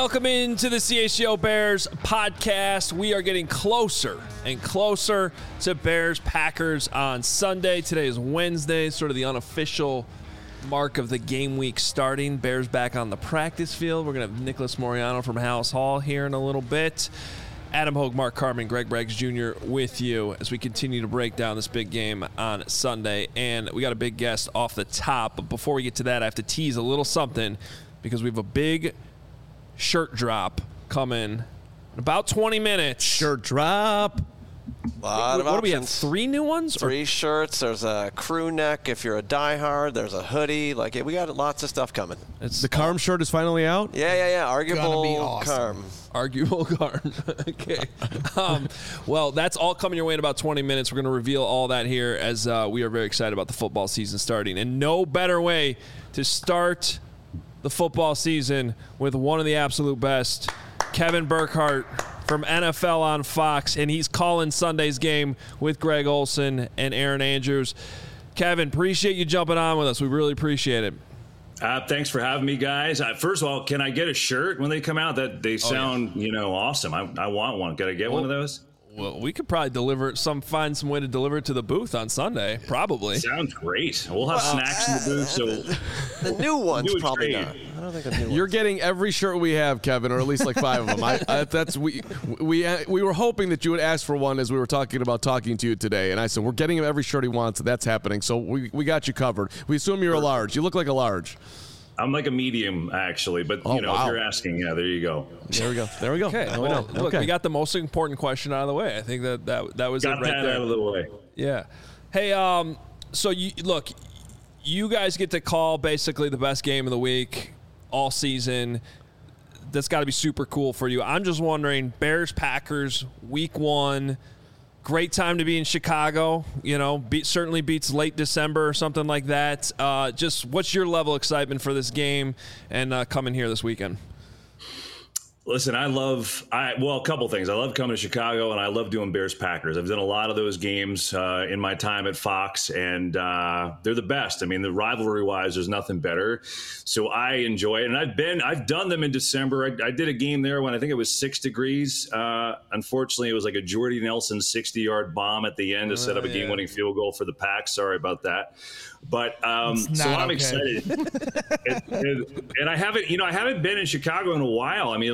Welcome into the CHGO Bears podcast. We are getting closer and closer to Bears-Packers on Sunday. Today is Wednesday, sort of the unofficial mark of the game week starting. Bears back on the practice field. We're going to have Nicholas Moriano from House Hall here in a little bit. Adam Hogue, Mark Carman, Greg Braggs Jr. with you as we continue to break down this big game on Sunday. And we got a big guest off the top. But before we get to that, I have to tease a little something because we have a big shirt drop coming in about 20 minutes. Shirt drop. What do we have? 3 new ones? 3 shirts. There's a crew neck if you're a diehard. There's a hoodie. We got lots of stuff coming. The Carm shirt is finally out? Yeah. Arguable awesome. Carm. Arguable Carm. Okay. Well, that's all coming your way in about 20 minutes. We're going to reveal all that here as we are very excited about the football season starting. And no better way to start the football season with one of the absolute best, Kevin Burkhardt from NFL on Fox, and he's calling Sunday's game with Greg Olsen and Aaron Andrews. Kevin, appreciate you jumping on with us. We really appreciate it. Thanks for having me, guys. First of all, can I get a shirt when they come out? That they sound, awesome. I want one. Can I get one of those? Well, we could probably find some way to deliver it to the booth on Sunday, probably. Sounds great. We'll have snacks in the booth. So the new one's probably not. I don't think a new one. You're getting every shirt we have, Kevin, or at least like 5 of them. We were hoping that you would ask for one as we were talking to you today, and I said we're getting him every shirt he wants. That's happening, so we got you covered. We assume you're a large. You look like a large. I'm like a medium, actually, but if you're asking, there you go. There we go. Okay. Well, look, we got the most important question out of the way. I think that was got it right that there. out of the way. Yeah. Hey, so you guys get to call basically the best game of the week all season. That's got to be super cool for you. I'm just wondering, Bears-Packers, week 1. Great time to be in Chicago, certainly beats late December or something like that. Just what's your level of excitement for this game and coming here this weekend? Listen, a couple things. I love coming to Chicago, and I love doing Bears-Packers. I've done a lot of those games in my time at Fox, and they're the best. I mean, the rivalry-wise, there's nothing better. So I enjoy it, and I've done them in December. I did a game there when I think it was 6 degrees. Unfortunately, it was like a Jordy Nelson 60-yard bomb at the end to set up a game-winning field goal for the Packs. Sorry about that. But so I'm excited, and I haven't been in Chicago in a while. I mean,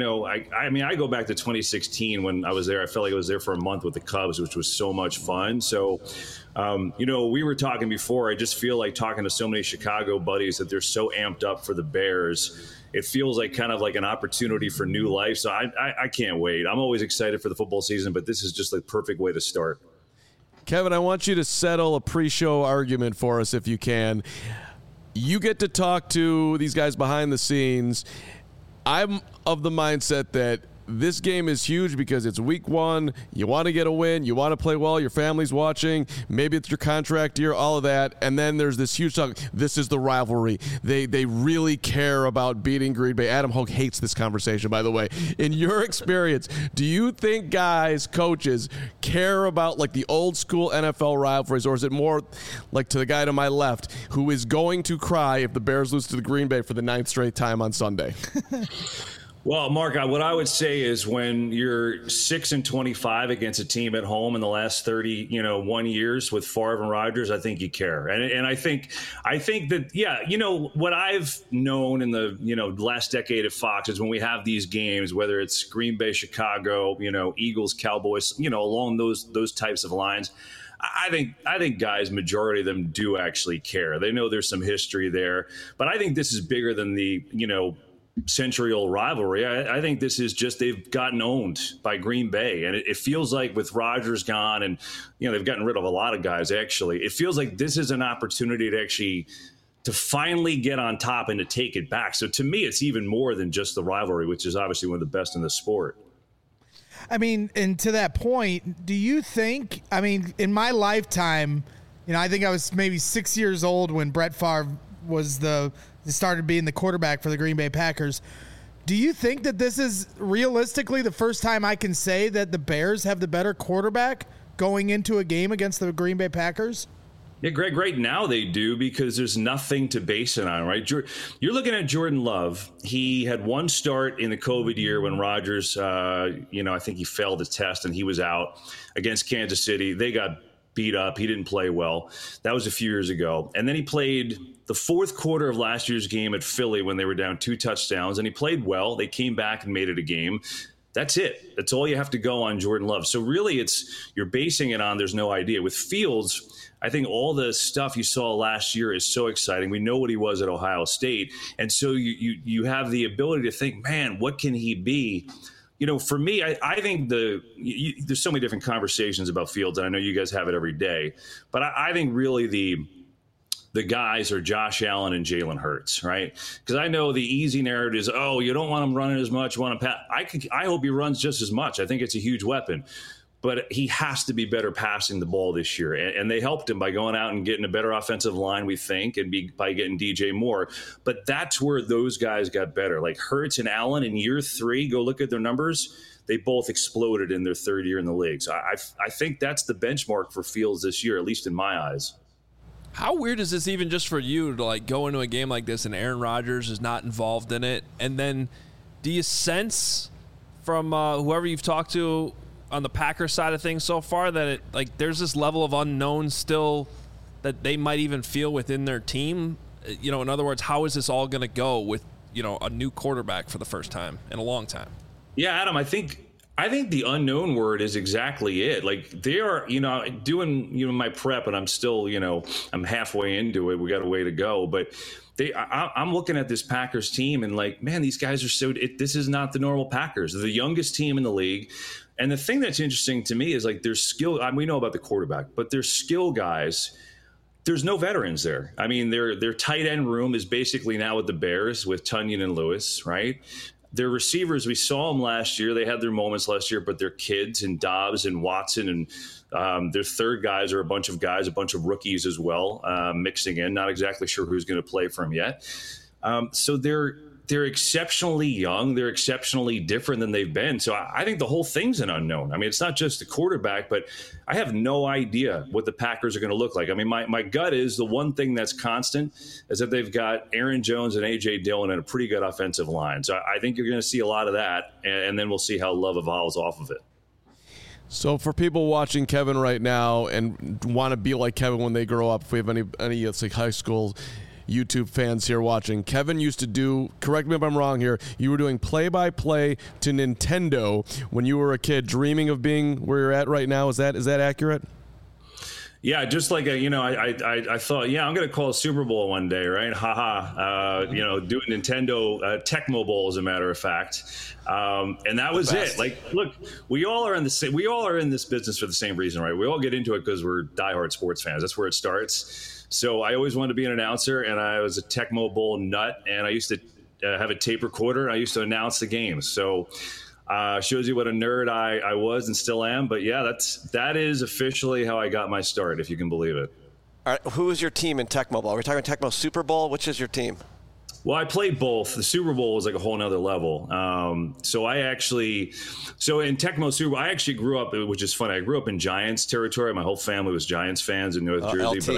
I go back to 2016 when I was there. I felt like I was there for a month with the Cubs, which was so much fun. So, we were talking before. I just feel like talking to so many Chicago buddies that they're so amped up for the Bears. It feels like kind of like an opportunity for new life. So I can't wait. I'm always excited for the football season, but this is just the perfect way to start. Kevin, I want you to settle a pre-show argument for us if you can. You get to talk to these guys behind the scenes. I'm of the mindset that this game is huge because it's week 1. You want to get a win. You want to play well. Your family's watching. Maybe it's your contract year, all of that. And then there's this huge talk. This is the rivalry. They really care about beating Green Bay. Adam Hogue hates this conversation, by the way. In your experience, do you think guys, coaches, care about like the old school NFL rivalries, or is it more like to the guy to my left who is going to cry if the Bears lose to the Green Bay for the 9th straight time on Sunday? Well, Mark, what I would say is when you're 6-25 against a team at home in the last 1 years with Favre and Rodgers, I think you care. And I think that, what I've known in the, last decade at Fox is when we have these games, whether it's Green Bay, Chicago, Eagles, Cowboys, along those types of lines, I think guys, majority of them do actually care. They know there's some history there, but I think this is bigger than the, century-old rivalry. I think this is just they've gotten owned by Green Bay, and it feels like with Rodgers gone, and they've gotten rid of a lot of guys. Actually, it feels like this is an opportunity to finally get on top and to take it back. So to me, it's even more than just the rivalry, which is obviously one of the best in the sport. I mean, and to that point, do you think? I mean, in my lifetime, I think I was maybe 6 years old when Brett Favre started being the quarterback for the Green Bay Packers. Do you think that this is realistically the first time I can say that the Bears have the better quarterback going into a game against the Green Bay Packers? Yeah, Greg, right now they do because there's nothing to base it on, right? You're looking at Jordan Love. He had one start in the COVID year when Rodgers, I think he failed the test and he was out against Kansas City. They got beat up. He didn't play well. That was a few years ago. And then he played the fourth quarter of last year's game at Philly when they were down 2 touchdowns, and he played well. They came back and made it a game. That's it. That's all you have to go on Jordan Love. So really you're basing it on there's no idea. With Fields, I think all the stuff you saw last year is so exciting. We know what he was at Ohio State. And so you have the ability to think, man, what can he be? For me, I think there's so many different conversations about Fields, and I know you guys have it every day. But I think really the guys are Josh Allen and Jalen Hurts, right? Because I know the easy narrative is, you don't want him running as much, you want him pass. I hope he runs just as much. I think it's a huge weapon. But he has to be better passing the ball this year. And they helped him by going out and getting a better offensive line, we think, and by getting DJ Moore. But that's where those guys got better. Like Hurts and Allen in year 3, go look at their numbers. They both exploded in their third year in the league. So I think that's the benchmark for Fields this year, at least in my eyes. How weird is this even just for you to go into a game like this and Aaron Rodgers is not involved in it? And then do you sense from whoever you've talked to on the Packers side of things so far that there's this level of unknown still that they might even feel within their team? In other words, how is this all going to go with, a new quarterback for the first time in a long time? Yeah, Adam, I think the unknown word is exactly it. They are, doing, my prep, and I'm still, I'm halfway into it. We got a way to go, but I'm looking at this Packers team and man, these guys are this is not the normal Packers. They're the youngest team in the league. And the thing that's interesting to me is their skill. We know about the quarterback, but their skill guys, there's no veterans there. I mean, their tight end room is basically now with the Bears with Tunyon and Lewis, right? Their receivers, we saw them last year. They had their moments last year, but they're kids and Dobbs and Watson. And their third guys are a bunch of rookies as well, mixing in. Not exactly sure who's going to play for them yet. So they're exceptionally young. They're exceptionally different than they've been. So I think the whole thing's an unknown. I mean, it's not just the quarterback, but I have no idea what the Packers are going to look like. I mean, my gut is the one thing that's constant is that they've got Aaron Jones and A.J. Dillon and a pretty good offensive line. So I think you're going to see a lot of that, and then we'll see how Love evolves off of it. So for people watching Kevin right now and want to be like Kevin when they grow up, if we have any high school YouTube fans here watching, Kevin used to do, correct me if I'm wrong here, you were doing play-by-play to Nintendo when you were a kid, dreaming of being where you're at right now. Is that accurate? Yeah, just I thought, I'm going to call a Super Bowl one day, right? Do a Nintendo Tecmo Bowl, as a matter of fact. And that was it. Look, we all are in this business for the same reason, right? We all get into it because we're diehard sports fans. That's where it starts. So I always wanted to be an announcer, and I was a Tecmo Bowl nut, and I used to have a tape recorder, and I used to announce the games. So shows you what a nerd I was and still am. But yeah, that is officially how I got my start, if you can believe it. All right, who is your team in Tecmo Bowl? Are we talking Tecmo Super Bowl? Which is your team? Well, I played both. The Super Bowl was a whole nother level. So in Tecmo Super Bowl, I actually grew up, which is funny. I grew up in Giants territory. My whole family was Giants fans in North Jersey, LT. But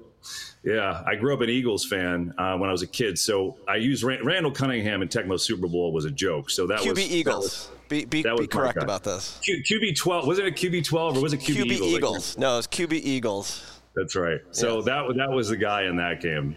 I grew up an Eagles fan when I was a kid. So I used Randall Cunningham in Tecmo Super Bowl was a joke. So that QB was Eagles. Be correct about this. QB12. Wasn't it QB12 or was it QB Eagles? Eagles. No, it's QB Eagles. That's right. So that was the guy in that game.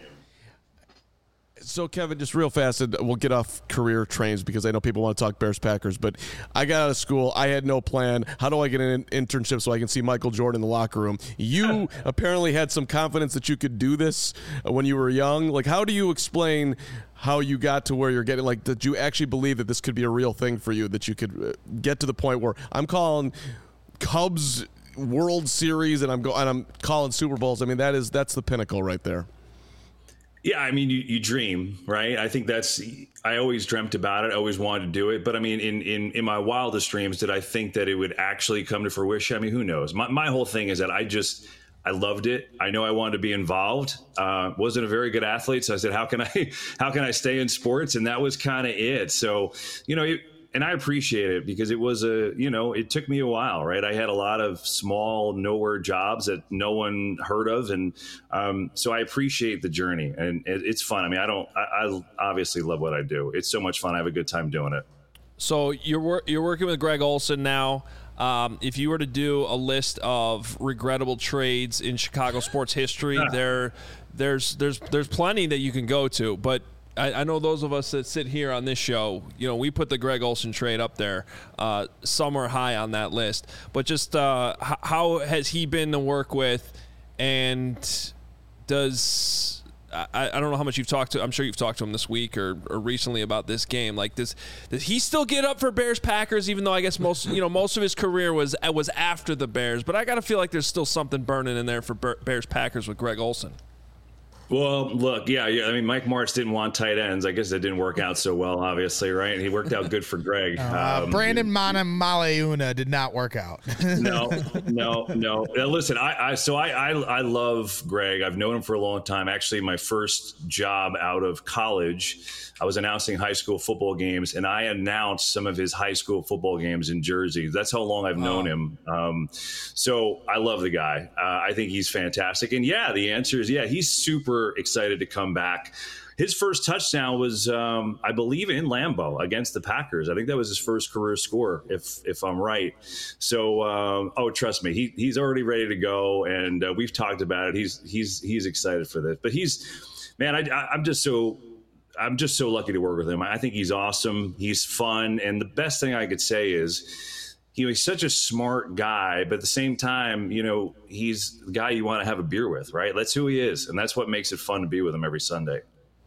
So, Kevin, just real fast, and we'll get off career trains because I know people want to talk Bears-Packers, but I got out of school. I had no plan. How do I get an internship so I can see Michael Jordan in the locker room? You apparently had some confidence that you could do this when you were young. How do you explain how you got to where you're getting? Did you actually believe that this could be a real thing for you, that you could get to the point where I'm calling Cubs World Series and I'm calling Super Bowls? I mean, that's the pinnacle right there. Yeah, I mean, you dream, right? I think I always dreamt about it. I always wanted to do it. But I mean, in my wildest dreams, did I think that it would actually come to fruition? I mean, who knows? My whole thing is that I loved it. I know I wanted to be involved. Wasn't a very good athlete. So I said, how can I stay in sports? And that was kind of it. So, and I appreciate it because it was it took me a while, right? I had a lot of small, nowhere jobs that no one heard of. And so I appreciate the journey, and it's fun. I mean, I obviously love what I do. It's so much fun. I have a good time doing it. So you're working with Greg Olsen now. If you were to do a list of regrettable trades in Chicago sports history, there's plenty that you can go to, but I know those of us that sit here on this show, we put the Greg Olsen trade up there, somewhere high on that list. But just how has he been to work with, and does I don't know how much you've talked to. I'm sure you've talked to him this week or recently about this game. Like, does he still get up for Bears Packers? Even though I guess most of his career was after the Bears, but I gotta feel like there's still something burning in there for Bears Packers with Greg Olsen. Well, look, yeah. I mean, Mike Martz didn't want tight ends. I guess that didn't work out so well, obviously, right? He worked out good for Greg. Brandon Maleuna did not work out. No. Listen, I love Greg. I've known him for a long time. Actually, my first job out of college, I was announcing high school football games, and I announced some of his high school football games in Jersey. That's how long I've known him. So I love the guy. I think he's fantastic. And yeah, the answer is yeah, he's super excited to come back. His first touchdown was, I believe, in Lambeau against the Packers. I think that was his first career score, if I'm right. So, trust me, he's already ready to go, and we've talked about it. He's excited for this. But I'm just so lucky to work with him. I think he's awesome. He's fun, and the best thing I could say is, he's such a smart guy, but at the same time, he's the guy you want to have a beer with, right? That's who he is, and that's what makes it fun to be with him every Sunday.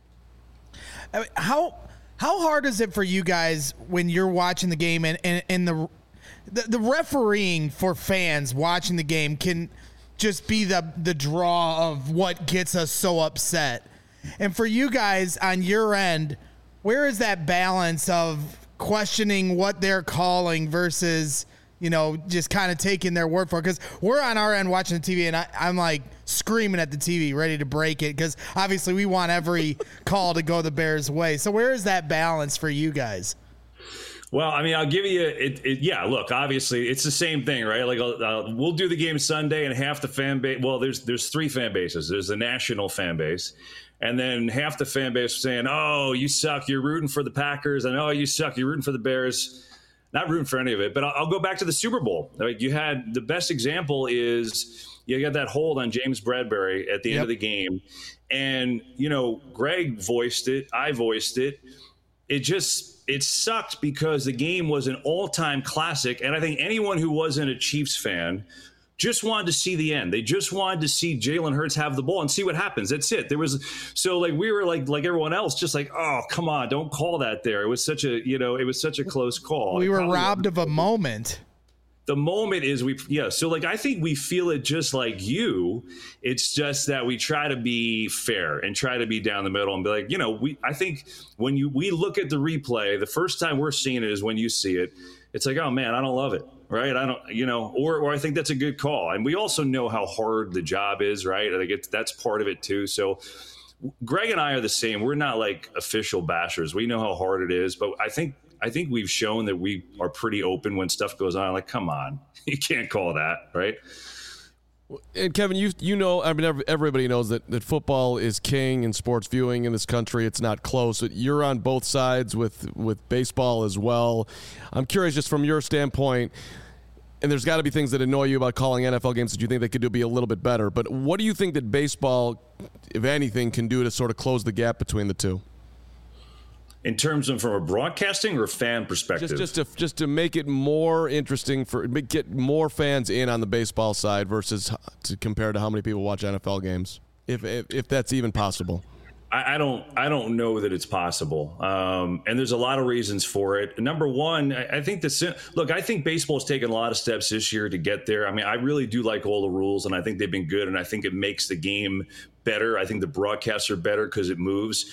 I mean, how hard is it for you guys when you're watching the game and the refereeing for fans watching the game can just be the draw of what gets us so upset? And for you guys on your end, where is that balance of questioning what they're calling versus, just kind of taking their word for it? Because we're on our end watching the TV, and I'm like screaming at the TV, ready to break it, because obviously we want every call to go the Bears' way. So where is that balance for you guys? Well, I mean, I'll give you yeah, look, obviously it's the same thing, right? Like we'll do the game Sunday, and half the fan base, well, there's three fan bases. There's the national fan base, and then half the fan base saying, oh, you suck, you're rooting for the Packers, and oh, you suck, you're rooting for the Bears. Not rooting for any of it, but I'll go back to the Super Bowl. Like, you had the best example is you got that hold on James Bradbury at the end of the game. And, Greg voiced it. I voiced it. It sucked because the game was an all-time classic. And I think anyone who wasn't a Chiefs fan just wanted to see the end. They just wanted to see Jalen Hurts have the ball and see what happens. That's it. We were like everyone else, just like, oh, come on, don't call that there. It was such a close call. We were robbed of a moment. The moment is so I think we feel it just like you. It's just that we try to be fair and try to be down the middle and be like, I think when we look at the replay, the first time we're seeing it is when you see it. It's like, oh man, I don't love it. Right. I don't, or I think that's a good call. And we also know how hard the job is. Right. I think that's part of it too. So Greg and I are the same. We're not like official bashers. We know how hard it is, but I think we've shown that we are pretty open when stuff goes on. Like, come on, you can't call that. Right. And Kevin, everybody knows that football is king in sports viewing in this country. It's not close. You're on both sides with baseball as well. I'm curious, just from your standpoint, and there's got to be things that annoy you about calling NFL games that you think they could be a little bit better. But what do you think that baseball, if anything, can do to sort of close the gap between the two? In terms of from a broadcasting or fan perspective? Just to make it more interesting, get more fans in on the baseball side versus compared to how many people watch NFL games, if that's even possible. I don't know that it's possible. And there's a lot of reasons for it. Number one, I think I think baseball has taken a lot of steps this year to get there. I mean, I really do like all the rules, and I think they've been good, and I think it makes the game better. I think the broadcasts are better because it moves.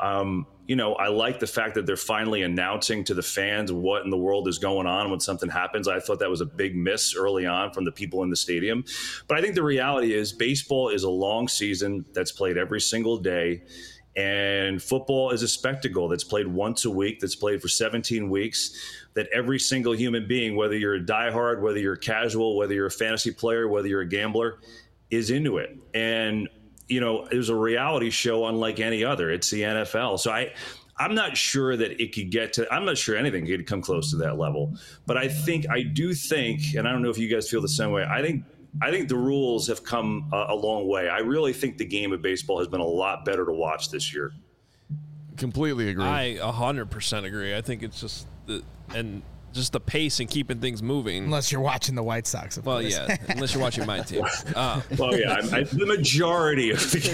I like the fact that they're finally announcing to the fans what in the world is going on when something happens. I thought that was a big miss early on from the people in the stadium. But I think the reality is baseball is a long season that's played every single day. And football is a spectacle that's played once a week, that's played for 17 weeks, that every single human being, whether you're a diehard, whether you're a casual, whether you're a fantasy player, whether you're a gambler, is into it. And, you know, there's a reality show unlike any other. It's the NFL. So I'm not sure that it could get to, I'm not sure anything could come close to that level. But I do think, and I don't know if you guys feel the same way, I think the rules have come a long way. I really think the game of baseball has been a lot better to watch this year. Completely agree. I 100% agree. I think it's just the pace and keeping things moving. Unless you're watching the White Sox. Well, yeah, unless you're watching my team. Well, yeah, the majority of the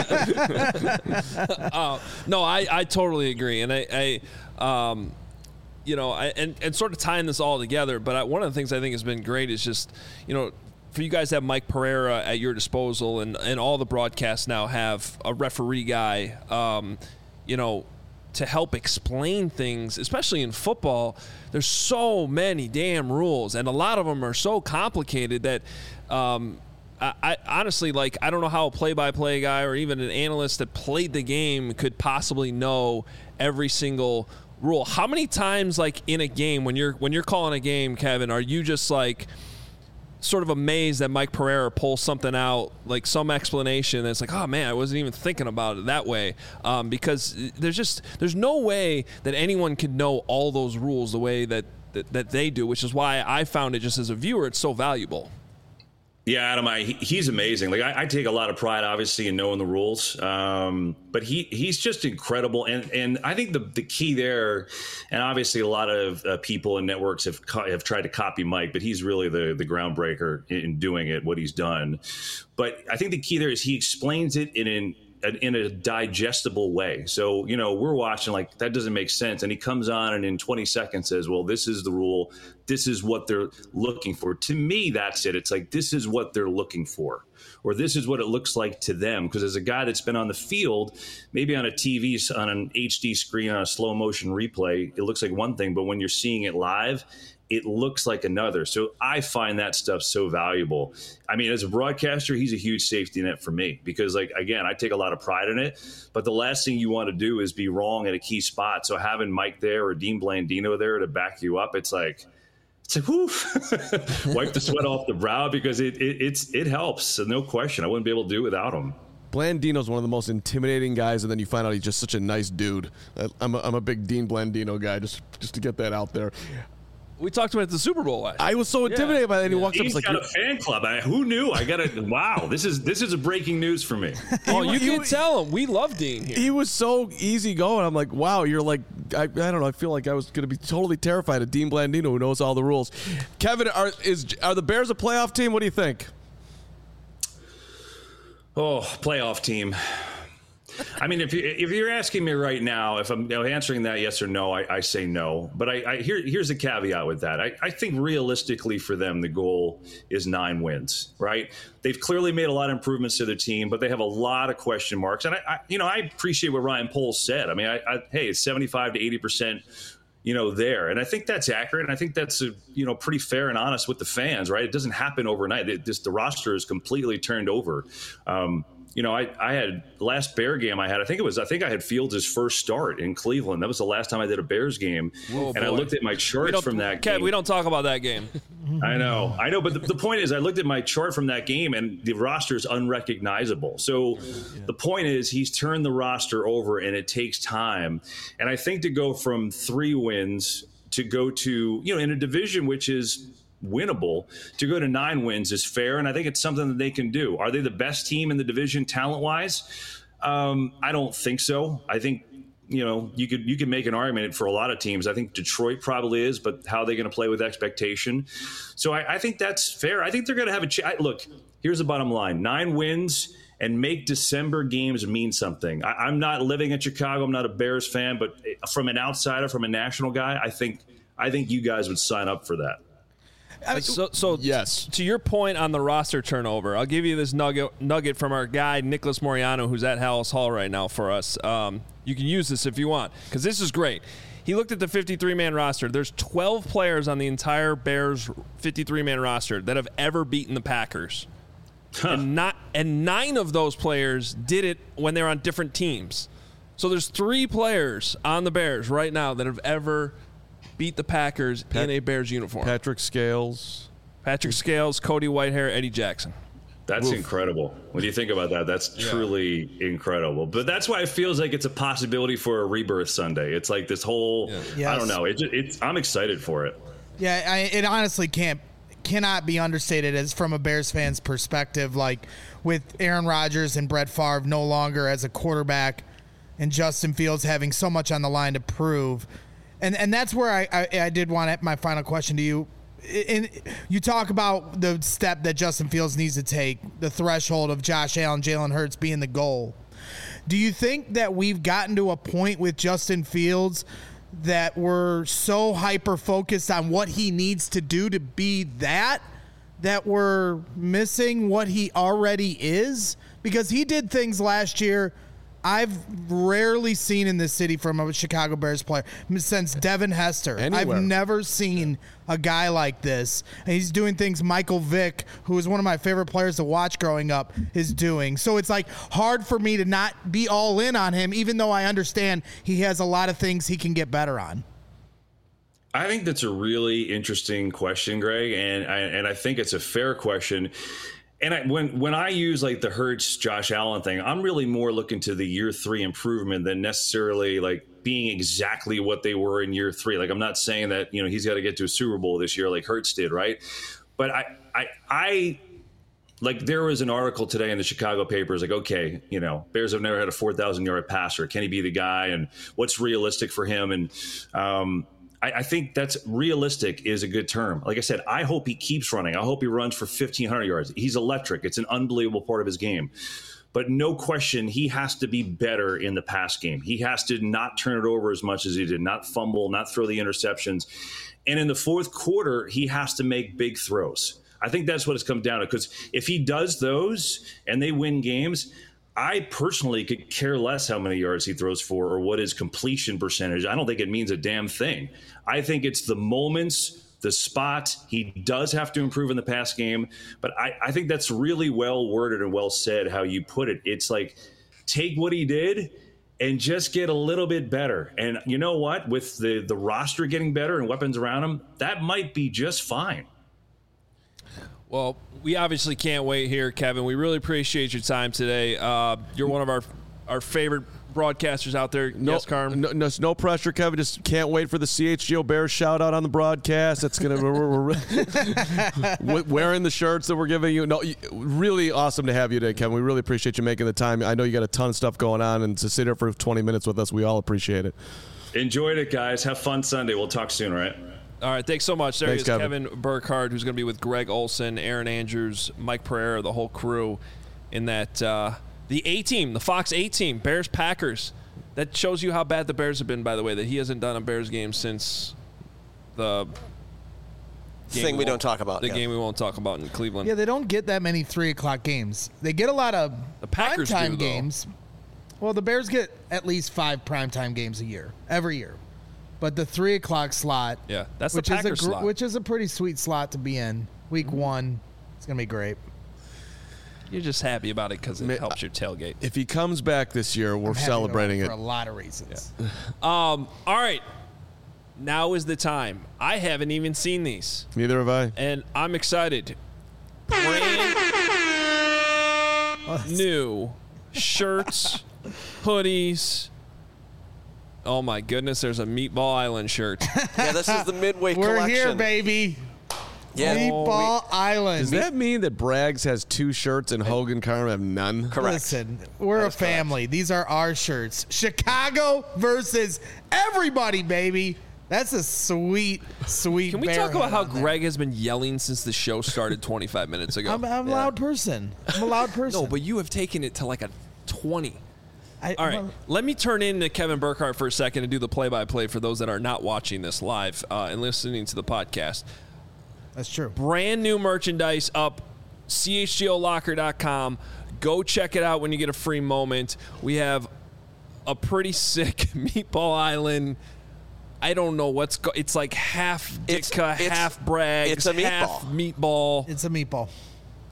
game. No, I totally agree, and I you know, and sort of tying this all together. But one of the things I think has been great is just, you know, for you guys to have Mike Pereira at your disposal, and all the broadcasts now have a referee guy, you know, to help explain things, especially in football. There's so many damn rules, and a lot of them are so complicated that I honestly, like, I don't know how a play-by-play guy or even an analyst that played the game could possibly know every single rule. How many times, like, in a game, when you're calling a game, Kevin, are you just like sort of amazed that Mike Pereira pulls something out, like some explanation that's like, oh man, I wasn't even thinking about it that way, because there's no way that anyone could know all those rules the way that they do, which is why I found it, just as a viewer, it's so valuable. Yeah, Adam, he's amazing. Like, I take a lot of pride, obviously, in knowing the rules, but he's just incredible. And I think the key there, and obviously a lot of people and networks have tried to copy Mike, but he's really the groundbreaker in doing it, what he's done. But I think the key there is he explains it in a digestible way. So, you know, we're watching like, that doesn't make sense. And he comes on and in 20 seconds says, well, this is the rule. This is what they're looking for. To me, that's it. It's like, this is what they're looking for, or this is what it looks like to them. Because as a guy that's been on the field, maybe on a TV, on an HD screen, on a slow motion replay, it looks like one thing, but when you're seeing it live, it looks like another. So I find that stuff so valuable. I mean, as a broadcaster, he's a huge safety net for me because, like, again, I take a lot of pride in it, but the last thing you want to do is be wrong at a key spot. So having Mike there or Dean Blandino there to back you up, it's like, whew, wipe the sweat off the brow, because it helps. So no question. I wouldn't be able to do it without him. Blandino's one of the most intimidating guys, and then you find out he's just such a nice dude. I'm a big Dean Blandino guy, just to get that out there. We talked about it at the Super Bowl last year. I was so intimidated by that. And he walks up, He's like, got a fan club. Who knew? Wow, this is a breaking news for me. Oh, you can tell him. We love Dean here. He was so easy going. I'm like, wow, you're like, I don't know. I feel like I was going to be totally terrified of Dean Blandino, who knows all the rules. Kevin, are the Bears a playoff team? What do you think? Oh, playoff team. I mean, if you're asking me right now, if I'm answering that yes or no, I say no. But here's the caveat with that. I think realistically for them, the goal is 9 wins, right? They've clearly made a lot of improvements to their team, but they have a lot of question marks. And I appreciate what Ryan Poles said. I mean, hey, it's 75 to 80%. There. And I think that's accurate. And I think that's, pretty fair and honest with the fans, right? It doesn't happen overnight. The roster is completely turned over. I had the last Bear game I think I had Fields' first start in Cleveland. That was the last time I did a Bears game. Oh, and I looked at my charts from that game. Kev, we don't talk about that game. I know. But the point is, I looked at my chart from that game, and the roster is unrecognizable. So the point is, he's turned the roster over, and it takes time. And I think to go from 3 wins to go to, in a division which is winnable, to go to 9 wins is fair, and I think it's something that they can do. Are they the best team in the division talent-wise? I don't think so. I think you could make an argument for a lot of teams. I think Detroit probably is, but how are they going to play with expectation? So I think that's fair. I think they're going to have a look. Here's the bottom line: 9 wins and make December games mean something. I'm not living in Chicago. I'm not a Bears fan, but from an outsider, from a national guy, I think you guys would sign up for that. So yes. To your point on the roster turnover, I'll give you this nugget from our guy, Nicholas Moriano, who's at Hallis Hall right now for us. You can use this if you want, because this is great. He looked at the 53-man roster. There's 12 players on the entire Bears 53-man roster that have ever beaten the Packers. And 9 of those players did it when they're on different teams. So there's 3 players on the Bears right now that have ever beat the Packers in a Bears uniform. Patrick Scales, Cody Whitehair, Eddie Jackson. That's incredible. When you think about that, that's truly incredible. But that's why it feels like it's a possibility for a rebirth Sunday. It's like this whole, I don't know. I'm excited for it. Yeah, it honestly cannot be understated as from a Bears fan's perspective. Like with Aaron Rodgers and Brett Favre no longer as a quarterback, and Justin Fields having so much on the line to prove, and that's where I did want my final question to you. You talk about the step that Justin Fields needs to take, the threshold of Josh Allen, Jalen Hurts being the goal. Do you think that we've gotten to a point with Justin Fields that we're so hyper-focused on what he needs to do to be that we're missing what he already is? Because he did things last year I've rarely seen in this city from a Chicago Bears player since Devin Hester. Anywhere. I've never seen a guy like this. And he's doing things Michael Vick, who is one of my favorite players to watch growing up, is doing. So it's like hard for me to not be all in on him, even though I understand he has a lot of things he can get better on. I think that's a really interesting question, Greg, and I think it's a fair question. And when I use like the Hurts, Josh Allen thing, I'm really more looking to the year 3 improvement than necessarily like being exactly what they were in year 3. Like I'm not saying that, you know, he's got to get to a Super Bowl this year like Hurts did, right? But I like there was an article today in the Chicago papers like, okay, you know, Bears have never had a 4,000-yard passer. Can he be the guy? And what's realistic for him? And I think that's realistic is a good term. Like I said, I hope he keeps running. I hope he runs for 1,500 yards. He's electric. It's an unbelievable part of his game. But no question, he has to be better in the pass game. He has to not turn it over as much as he did, not fumble, not throw the interceptions. And in the fourth quarter, he has to make big throws. I think that's what it's come down to. Because if he does those and they win games, I personally could care less how many yards he throws for or what his completion percentage. I don't think it means a damn thing. I think it's the moments, the spot. He does have to improve in the pass game, but I think that's really well worded and well said how you put it. It's like take what he did and just get a little bit better. And you know what? With the roster getting better and weapons around him, that might be just fine. Well, we obviously can't wait here, Kevin. We really appreciate your time today. You're one of our favorite broadcasters out there. Yes, Carm? No pressure, Kevin. Just can't wait for the CHGO Bears shout out on the broadcast. That's gonna we're wearing the shirts that we're giving you. No, really awesome to have you today, Kevin. We really appreciate you making the time. I know you got a ton of stuff going on, and to sit here for 20 minutes with us, we all appreciate it. Enjoyed it, guys. Have fun Sunday. We'll talk soon, all right? All right, thanks so much. There Thanks, is Kevin Burkhardt, who's going to be with Greg Olson, Aaron Andrews, Mike Pereira, the whole crew in that the A-team, the Fox A-team, Bears-Packers. That shows you how bad the Bears have been, by the way, that he hasn't done a Bears game since the thing we don't talk about. The game we won't talk about in Cleveland. Yeah, they don't get that many 3 o'clock games. They get a lot of the Packers primetime do, games. Well, the Bears get at least 5 primetime games a year, every year. But the 3 o'clock slot, yeah, that's the Packers slot, which is a pretty sweet slot to be in. Week 1, it's gonna be great. You're just happy about it because it helps your tailgate. If he comes back this year, we're celebrating it for a lot of reasons. Yeah. All right, now is the time. I haven't even seen these. Neither have I, and I'm excited. Brand new shirts, hoodies. Oh, my goodness, there's a Meatball Island shirt. Yeah, this is the Midway collection. We're here, baby. Yeah. Meatball Island. Does that mean that Braggs has 2 shirts and Hogan Carm have none? Correct. Listen, we're a family. Correct. These are our shirts. Chicago versus everybody, baby. That's a sweet. Can we talk about how Greg has been yelling since the show started 25 minutes ago? I'm a loud person. I'm a loud person. No, but you have taken it to like a 20. All right, let me turn in to Kevin Burkhardt for a second and do the play-by-play for those that are not watching this live and listening to the podcast. That's true. Brand new merchandise up, chgolocker.com. Go check it out when you get a free moment. We have a pretty sick Meatball Island. I don't know it's like half Ditka, half Braggs, it's a meatball. half meatball. It's a meatball.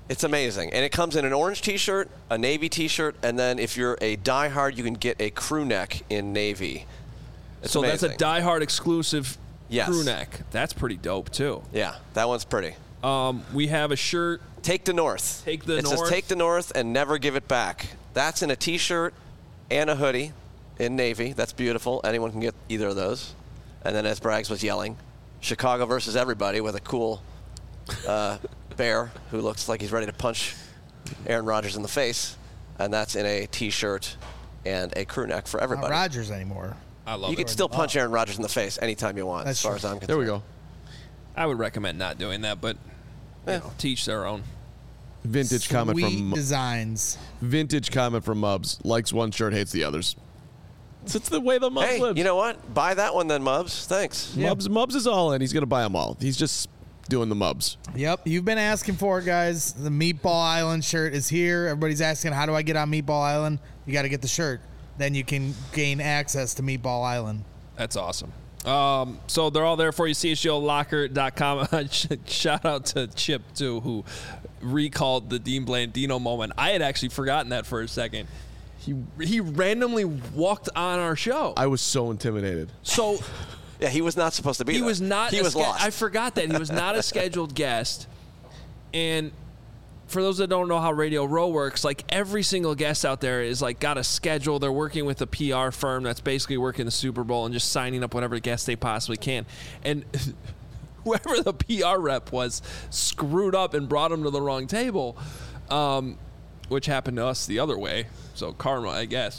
It's amazing. And it comes in an orange T-shirt, a navy T-shirt, and then if you're a diehard, you can get a crew neck in navy. It's amazing. That's a diehard exclusive Yes. crew neck. That's pretty dope, too. Yeah, that one's pretty. We have a shirt. Take the North. Take the It North. says Take the North and never give it back. That's in a T-shirt and a hoodie in navy. That's beautiful. Anyone can get either of those. And then as Braggs was yelling, Chicago versus everybody with a cool bear who looks like he's ready to punch Aaron Rodgers in the face. And that's in a T-shirt and a crew neck for Not everybody. Rodgers anymore. I love You it. can still punch Aaron Rodgers in the face anytime you want, That's as far true. as I'm concerned. There we go. I would recommend not doing that, but teach their own. Vintage comment Sweet from designs. Mubs. Likes one shirt, hates the others. It's the way the Mubs Hey, lives. you know what? Buy that one then, Mubs. Thanks. Mubs is all in. He's going to buy them all. He's just doing the Mubs. Yep, you've been asking for it, guys. The Meatball Island shirt is here. Everybody's asking, how do I get on Meatball Island? You got to get the shirt. Then you can gain access to Meatball Island. That's awesome. So they're all there for you. CHGOlocker.com. Shout out to Chip, too, who recalled the Dean Blandino moment. I had actually forgotten that for a second. He randomly walked on our show. I was so intimidated. So Yeah, he was not supposed to be he there. was not. He was lost. I forgot that he was not a scheduled guest. And for those that don't know how Radio Row works, like every single guest out there is like got a schedule. They're working with a PR firm that's basically working the Super Bowl and just signing up whatever guests they possibly can. And whoever the PR rep was screwed up and brought him to the wrong table, which happened to us the other way. So karma, I guess.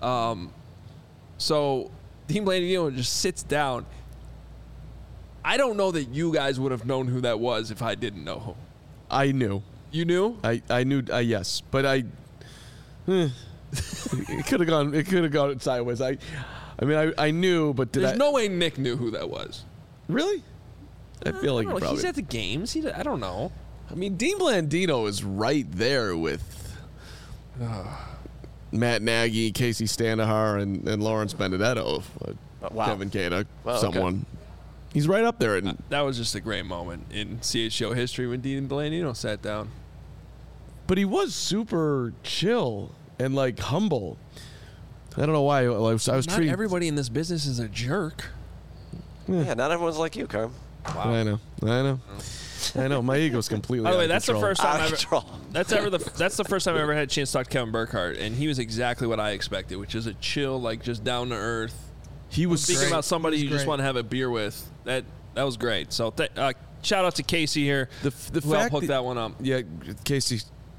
So Dean Blandino just sits down. I don't know that you guys would have known who that was if I didn't know him. I knew. You knew? I knew. Yes, but it could have gone. It could have gone sideways. I knew, but did There's no way Nick knew who that was. really? I feel like I don't know. probably. He's at the games. I don't know. I mean, Dean Blandino is right there with Matt Nagy, Casey Standahar, and Lawrence Benedetto, wow. Kevin Kada, Wow, someone. He's right up there. And, That was just a great moment in CHGO history when Dean Blandino sat down. but he was super chill and like humble. I don't know why. I was Not treating. everybody in this business is a jerk. Yeah, not everyone's like you, Carm. I know. My ego's completely. By the way, out of that's the control. first time Out of I've control. that's the first time I ever had a chance to talk to Kevin Burkhardt, and he was exactly what I expected, which is a chill, like just down to earth. He was Speaking Great. about somebody He you was just great. want to have a beer with, that was great. So shout out to Casey here. the who helped fact hook that one up. Yeah, Casey,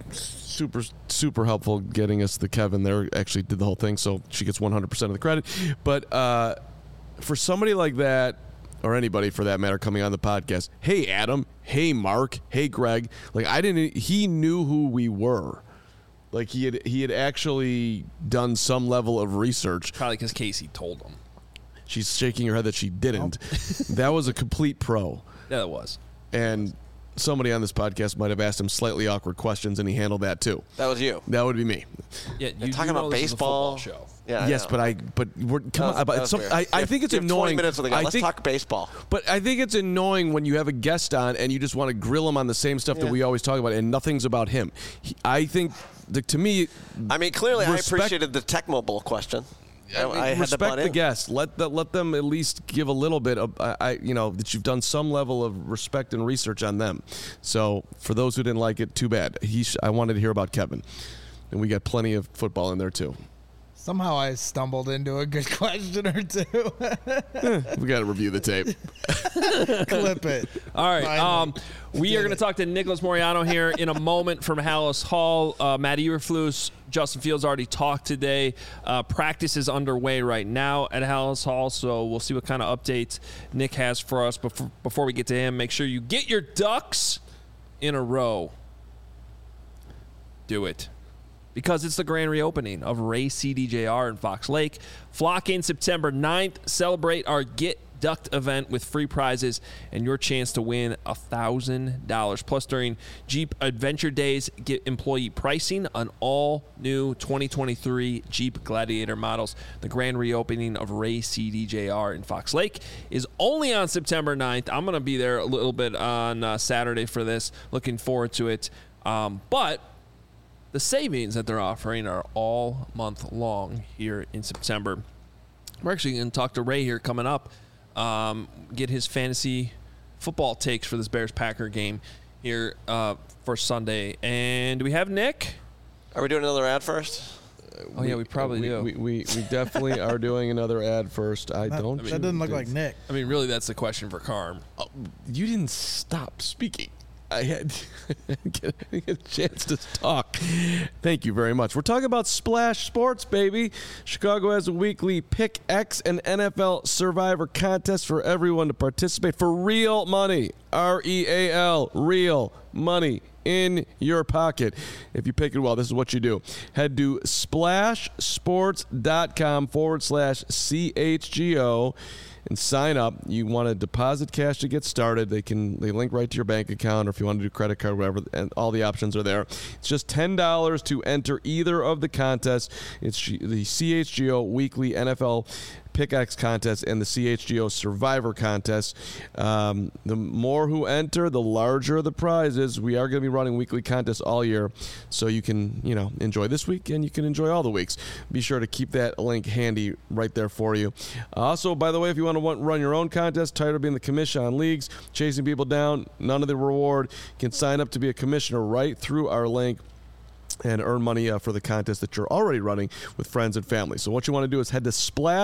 super helpful getting us the Kevin there. Actually did the whole thing, so she gets 100% of the credit. But for somebody like that, or anybody for that matter, coming on the podcast, hey Adam, hey Mark, hey Greg, like he knew who we were. Like he had actually done some level of research. Probably because Casey told him. She's shaking her head that she didn't. That was a complete pro. Yeah, that was. And somebody on this podcast might have asked him slightly awkward questions, and he handled that too. That was you. That would be me. Yeah, you Talking do know about this is a football baseball. show. Yeah. I Yes, know. but we're come on. That But was some, weird. I think it's You have 20 annoying. minutes with the guy. I Let's think, talk baseball. But I think it's annoying when you have a guest on and you just want to grill him on the same stuff that we always talk about, and nothing's about him. I think, to me, I mean, clearly, Respect- I appreciated the Tech Mobile question. I had to respect butt the in. guests. Let them at least give a little bit of, that you've done some level of respect and research on them. So for those who didn't like it, too bad. I wanted to hear about Kevin, and we got plenty of football in there too. Somehow I stumbled into a good question or two. We got to review the tape. Clip it. All right. Finally. We are going to talk to Nicholas Moriano here in a moment from Hallis Hall. Matt Eberflus, Justin Fields already talked today. Practice is underway right now at Hallis Hall, so we'll see what kind of updates Nick has for us. Before we get to him, make sure you get your ducks in a row. Do it. Because it's the grand reopening of Ray CDJR in Fox Lake. Flock in September 9th. Celebrate our Get Ducked event with free prizes and your chance to win $1,000. Plus, during Jeep Adventure Days, get employee pricing on all new 2023 Jeep Gladiator models. The grand reopening of Ray CDJR in Fox Lake is only on September 9th. I'm going to be there a little bit on Saturday for this. Looking forward to it. But the savings that they're offering are all month long here in September. We're actually going to talk to Ray here coming up, get his fantasy football takes for this Bears-Packer game here for Sunday. And do we have Nick? Are we doing another ad first? Oh, yeah, we probably do. We definitely are doing another ad first. That doesn't look like Nick. I mean, really, that's the question for Carm. You didn't stop speaking. I had get a chance to talk. Thank you very much. We're talking about Splash Sports, baby. Chicago has a weekly Pick X and NFL Survivor contest for everyone to participate for real money. REAL, real money in your pocket. If you pick it well, this is what you do. Head to splashsports.com/CHGO and sign up. You want to deposit cash to get started. They link right to your bank account, or if you want to do credit card, whatever, and all the options are there. It's just $10 to enter either of the contests. It's the CHGO Weekly NFL Pickaxe Contest and the CHGO Survivor Contest. The more who enter, the larger the prizes. We are going to be running weekly contests all year, so you can enjoy this week and you can enjoy all the weeks. Be sure to keep that link handy right there for you. Also, by the way, if you want to run your own contest, tired of being the commission on leagues, chasing people down, none of the reward, you can sign up to be a commissioner right through our link and earn money for the contest that you're already running with friends and family. So what you want to do is head to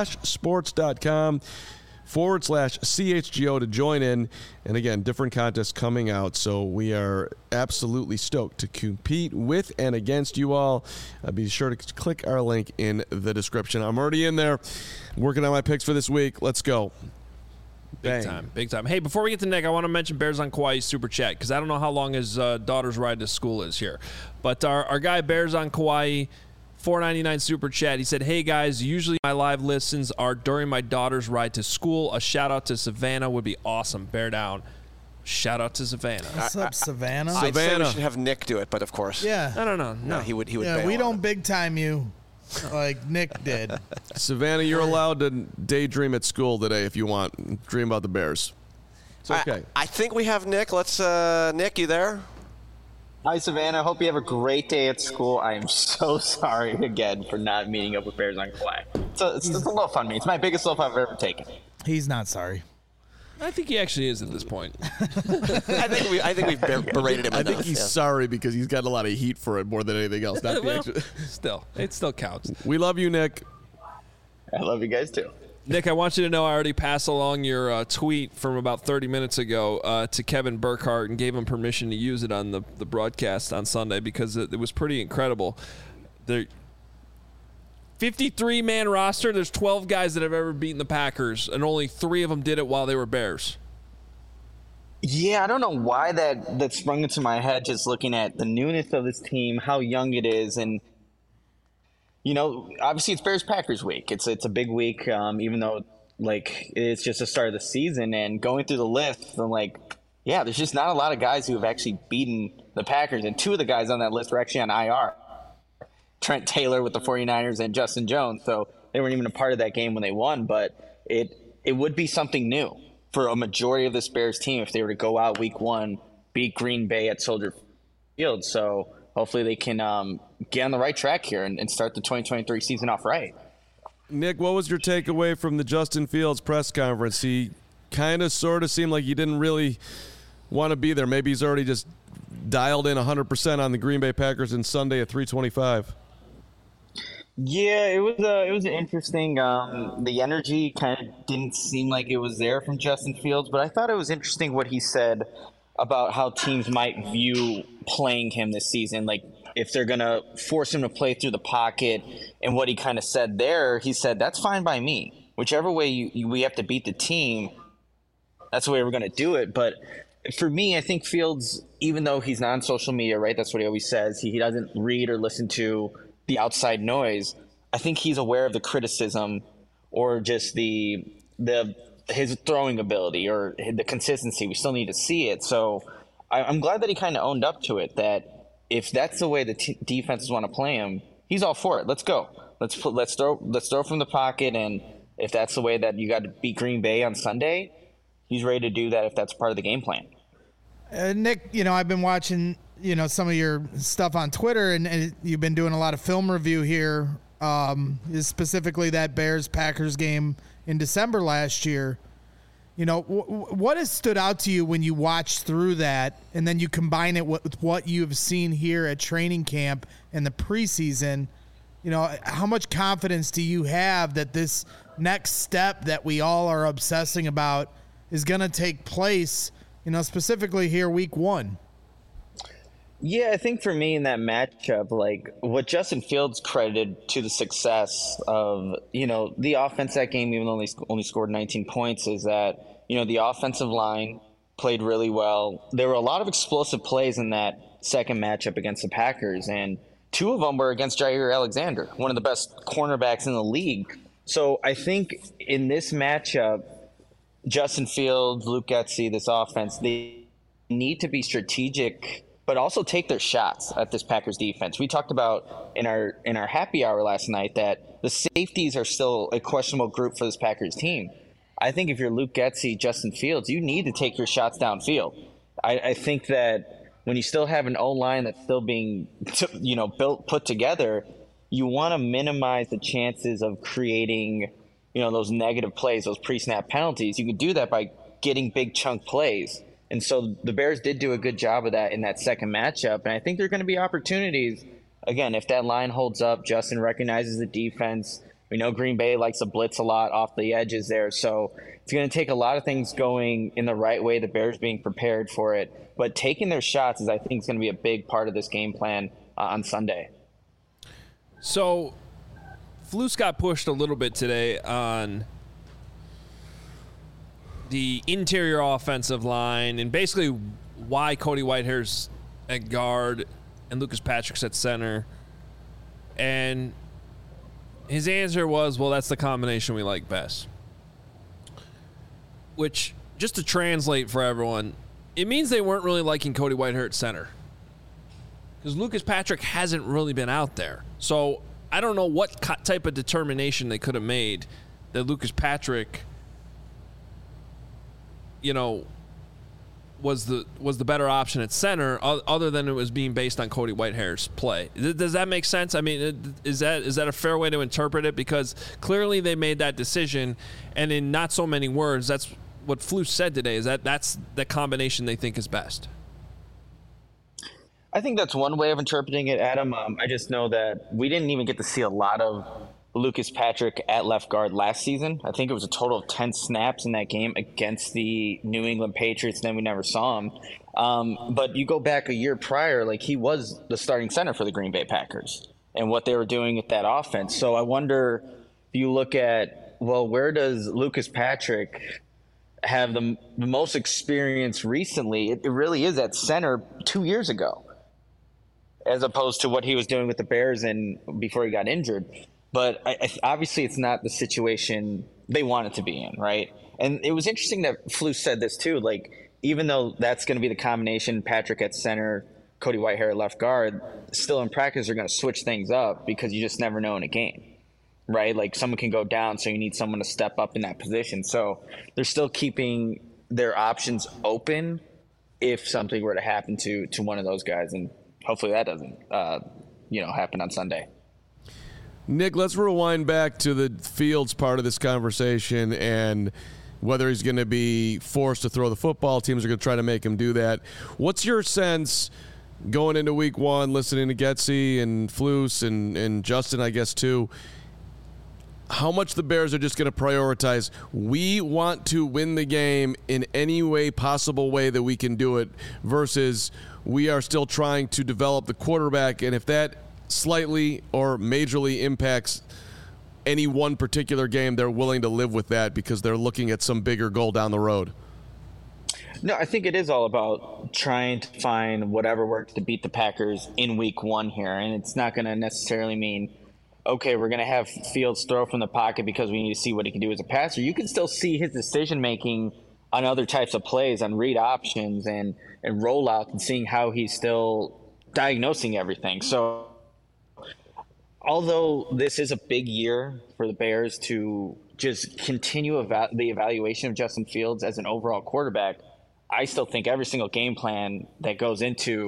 splashsports.com/CHGO to join in. And again, different contests coming out. So we are absolutely stoked to compete with and against you all. Be sure to click our link in the description. I'm already in there working on my picks for this week. Let's go. Big time. Hey, before we get to Nick, I want to mention Bears on Kauai's super chat, because I don't know how long his daughter's ride to school is here. But our guy, Bears on Kauai, $4.99 super chat. He said, hey, guys, usually my live listens are during my daughter's ride to school. A shout-out to Savannah would be awesome. Bear down. Shout out to Savannah. What's up, Savannah? I'd say we should have Nick do it, but of course. Yeah. No. He would Yeah, bail we on don't it. big time you like Nick did. Savannah, you're allowed to daydream at school today if you want. Dream about the Bears. It's okay. I think we have Nick. Let's, Nick, you there? Hi, Savannah. Hope you have a great day at school. I am so sorry again for not meeting up with Bears on Kauai. It's a little fun me. It's my biggest loaf I've ever taken. He's not sorry. I think he actually is at this point. I think we've berated him I enough. think he's sorry because he's got a lot of heat for it more than anything else. Not the Well, actual- it still counts. We love you, Nick. I love you guys too. Nick, I want you to know I already passed along your tweet from about 30 minutes ago to Kevin Burkhardt and gave him permission to use it on the broadcast on Sunday, because it was pretty incredible. The 53-man roster, there's 12 guys that have ever beaten the Packers, and only 3 of them did it while they were Bears. Yeah, I don't know why that sprung into my head just looking at the newness of this team, how young it is, and obviously it's Bears-Packers week. It's a big week, even though it's just the start of the season. And going through the list, I'm like, yeah, there's just not a lot of guys who have actually beaten the Packers, and 2 of the guys on that list were actually on IR. Trent Taylor with the 49ers and Justin Jones. So they weren't even a part of that game when they won, but it would be something new for a majority of this Bears team if they were to go out week 1, beat Green Bay at Soldier Field. So hopefully they can get on the right track here and start the 2023 season off right. Nick, what was your takeaway from the Justin Fields press conference? He kind of sort of seemed like he didn't really want to be there. Maybe he's already just dialed in 100% on the Green Bay Packers on Sunday at 3:25. Yeah, it was interesting. The energy kind of didn't seem like it was there from Justin Fields, but I thought it was interesting what he said about how teams might view playing him this season, like if they're going to force him to play through the pocket. And what he kind of said there, he said, that's fine by me. Whichever way we have to beat the team, that's the way we're going to do it. But for me, I think Fields, even though he's not on social media, right, that's what he always says, he doesn't read or listen to the outside noise. I think he's aware of the criticism or just his throwing ability or the consistency. We still need to see it. So I'm glad that he kind of owned up to it, that if that's the way the defenses want to play him, he's all for it. Let's go. Let's throw from the pocket, and if that's the way that you got to beat Green Bay on Sunday, he's ready to do that if that's part of the game plan. Nick, I've been watching some of your stuff on Twitter, and you've been doing a lot of film review here, specifically that Bears-Packers game in December last year. What has stood out to you when you watch through that, and then you combine it with what you've seen here at training camp and the preseason? How much confidence do you have that this next step that we all are obsessing about is going to take place, specifically here week 1? Yeah, I think for me in that matchup, like what Justin Fields credited to the success of, the offense that game, even though they only scored 19 points, is that, the offensive line played really well. There were a lot of explosive plays in that second matchup against the Packers, and 2 of them were against Jair Alexander, one of the best cornerbacks in the league. So I think in this matchup, Justin Fields, Luke Getsy, this offense, they need to be strategic, but also take their shots at this Packers defense. We talked about in our happy hour last night that the safeties are still a questionable group for this Packers team. I think if you're Luke Getsy, Justin Fields, you need to take your shots downfield. I think that when you still have an O-line that's still being put together, you want to minimize the chances of creating those negative plays, those pre-snap penalties. You can do that by getting big chunk plays. And so the Bears did do a good job of that in that second matchup. And I think there are going to be opportunities. Again, if that line holds up, Justin recognizes the defense. We know Green Bay likes to blitz a lot off the edges there. So it's going to take a lot of things going in the right way, the Bears being prepared for it. But taking their shots is, I think, is going to be a big part of this game plan on Sunday. So Flus got pushed a little bit today on the interior offensive line and basically why Cody Whitehair's at guard and Lucas Patrick's at center. And his answer was, well, that's the combination we like best. Which, just to translate for everyone, it means they weren't really liking Cody Whitehair at center. Because Lucas Patrick hasn't really been out there. So I don't know what type of determination they could have made that Lucas Patrick, was the better option at center, other than it was being based on Cody Whitehair's play. Does that make sense? I mean, is that a fair way to interpret it? Because clearly they made that decision, and in not so many words, that's what Flus said today, is that's the combination they think is best. I think that's one way of interpreting it, Adam. I just know that we didn't even get to see a lot of Lucas Patrick at left guard last season. I think it was a total of 10 snaps in that game against the New England Patriots, and then we never saw him. But you go back a year prior, like he was the starting center for the Green Bay Packers and what they were doing with that offense. So I wonder if you look at, well, where does Lucas Patrick have the most experience recently? It really is at center 2 years ago, as opposed to what he was doing with the Bears and before he got injured. But obviously it's not the situation they want it to be in, right? And it was interesting that Flus said this too. Like, even though that's going to be the combination, Patrick at center, Cody Whitehair at left guard, still in practice they're going to switch things up because you just never know in a game, right? Like someone can go down, so you need someone to step up in that position. So they're still keeping their options open if something were to happen to one of those guys. And hopefully that doesn't, happen on Sunday. Nick, let's rewind back to the Fields part of this conversation and whether he's going to be forced to throw the football. Teams are going to try to make him do that. What's your sense going into week 1, listening to Getsy and Flus and Justin, I guess, too, how much the Bears are just going to prioritize, we want to win the game in any way possible way that we can do it, versus we are still trying to develop the quarterback, and if that slightly or majorly impacts any one particular game, they're willing to live with that because they're looking at some bigger goal down the road? No, I think it is all about trying to find whatever works to beat the Packers in week 1 here. And it's not going to necessarily mean, okay, we're going to have Fields throw from the pocket because we need to see what he can do as a passer. You can still see his decision-making on other types of plays, on read options and rollout, and seeing how he's still diagnosing everything. So although this is a big year for the Bears to just continue the evaluation of Justin Fields as an overall quarterback, I still think every single game plan that goes into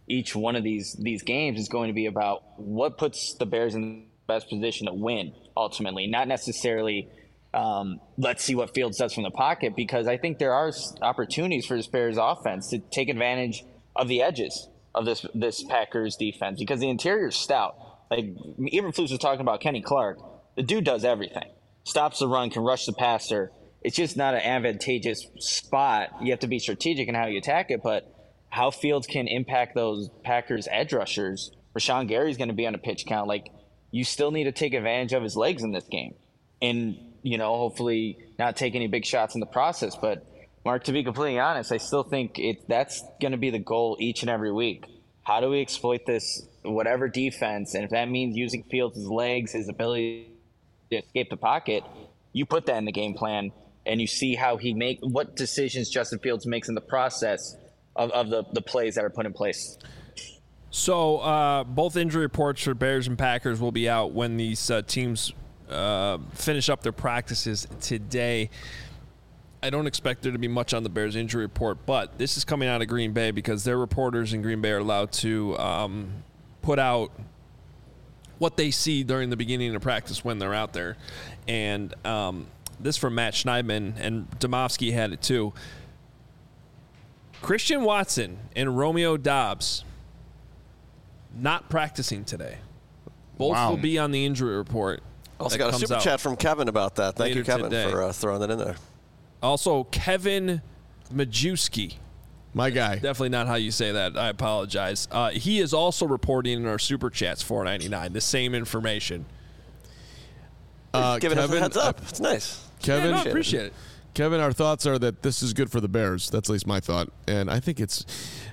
each one of these games is going to be about what puts the Bears in the best position to win ultimately, not necessarily let's see what Fields does from the pocket, because I think there are opportunities for this Bears offense to take advantage of the edges of this Packers defense, because the interior is stout. Like Eberflus was talking about Kenny Clark. The dude does everything. Stops the run, can rush the passer. It's just not an advantageous spot. You have to be strategic in how you attack it, but how Fields can impact those Packers edge rushers. Rashawn Gary's going to be on a pitch count. Like, you still need to take advantage of his legs in this game. And, hopefully not take any big shots in the process. But, Mark, to be completely honest, I still think that's going to be the goal each and every week. How do we exploit this, whatever defense? And if that means using Fields' legs, his ability to escape the pocket, you put that in the game plan. And you see how what decisions Justin Fields makes in the process of the plays that are put in place. So both injury reports for Bears and Packers will be out when these teams finish up their practices today. I don't expect there to be much on the Bears injury report, but this is coming out of Green Bay because their reporters in Green Bay are allowed to put out what they see during the beginning of practice when they're out there. And this from Matt Schneidman, and Domofsky had it too. Christian Watson and Romeo Doubs not practicing today. Both will be on the injury report. Also got a super chat from Kevin about that. Thank you, Kevin, for throwing that in there. Also, Kevin Majewski. My guy. Definitely not how you say that. I apologize. He is also reporting in our super chats, $4.99, the same information. Giving us a heads up. It's nice. Kevin, yeah, no, appreciate it. Kevin, our thoughts are that this is good for the Bears. That's at least my thought. And I think it's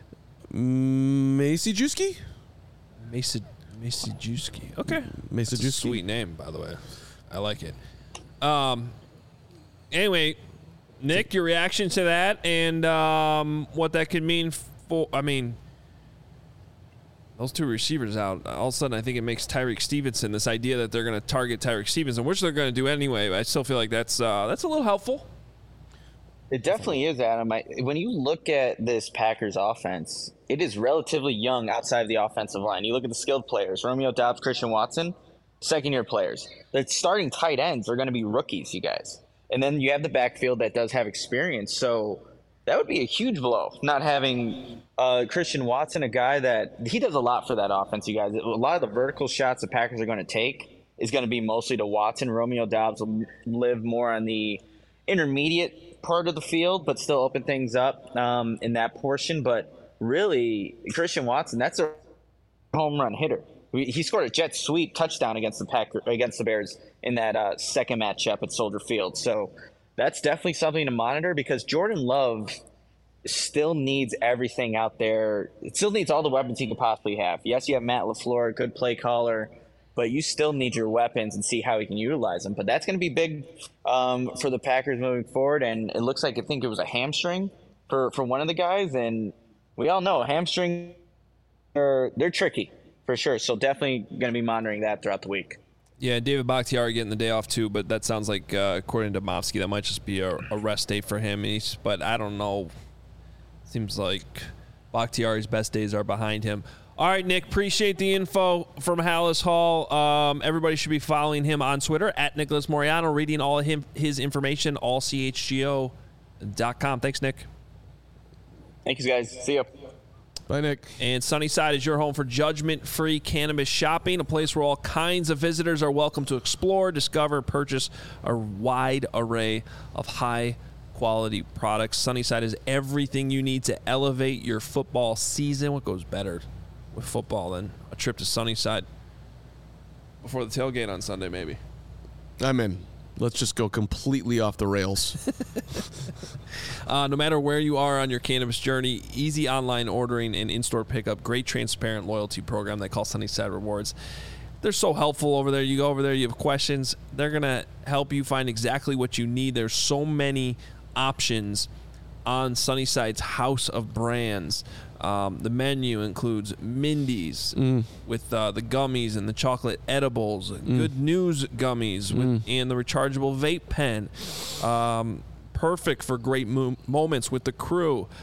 Majewski? Majewski. Okay. Majewski. Sweet name, by the way. I like it. Anyway, Nick, your reaction to that and what that could mean for, those two receivers out, all of a sudden I think it makes Tyreek Stevenson, this idea that they're going to target Tyreek Stevenson, which they're going to do anyway. I still feel like that's a little helpful. It definitely is, Adam. When you look at this Packers offense, it is relatively young outside of the offensive line. You look at the skilled players, Romeo Doubs, Christian Watson, second-year players. The starting tight ends are going to be rookies, you guys. And then you have the backfield that does have experience. So that would be a huge blow, not having Christian Watson, a guy that he does a lot for that offense, you guys. A lot of the vertical shots the Packers are going to take is going to be mostly to Watson. Romeo Doubs will live more on the intermediate part of the field, but still open things up in that portion. But really, Christian Watson, that's a home run hitter. He scored a jet sweep touchdown against the Bears in that second matchup at Soldier Field. So that's definitely something to monitor, because Jordan Love still needs everything out there. It still needs all the weapons he could possibly have. Yes, you have Matt LaFleur, good play caller, but you still need your weapons and see how he can utilize them. But that's going to be big for the Packers moving forward. And it looks like, I think it was a hamstring for one of the guys. And we all know hamstring, they're tricky for sure. So definitely going to be monitoring that throughout the week. Yeah, David Bakhtiari getting the day off too, but that sounds like, according to Domofsky, that might just be a rest day for him. But I don't know. Seems like Bakhtiari's best days are behind him. All right, Nick, appreciate the info from Halas Hall. Everybody should be following him on Twitter, at Nicholas Moriano, reading all of his information, allchgo.com. Thanks, Nick. Thank you, guys. See you. Bye, Nick. And Sunnyside is your home for judgment-free cannabis shopping, a place where all kinds of visitors are welcome to explore, discover, purchase a wide array of high-quality products. Sunnyside is everything you need to elevate your football season. What goes better with football than a trip to Sunnyside before the tailgate on Sunday, maybe? I'm in. Let's just go completely off the rails. No matter where you are on your cannabis journey, easy online ordering and in-store pickup, great transparent loyalty program they call Sunnyside Rewards. They're so helpful over there. You go over there, you have questions, they're going to help you find exactly what you need. There's so many options on Sunnyside's house of brands. The menu includes Mindy's with the gummies and the chocolate edibles, Good News gummies and the rechargeable vape pen. Perfect for great moments with the crew.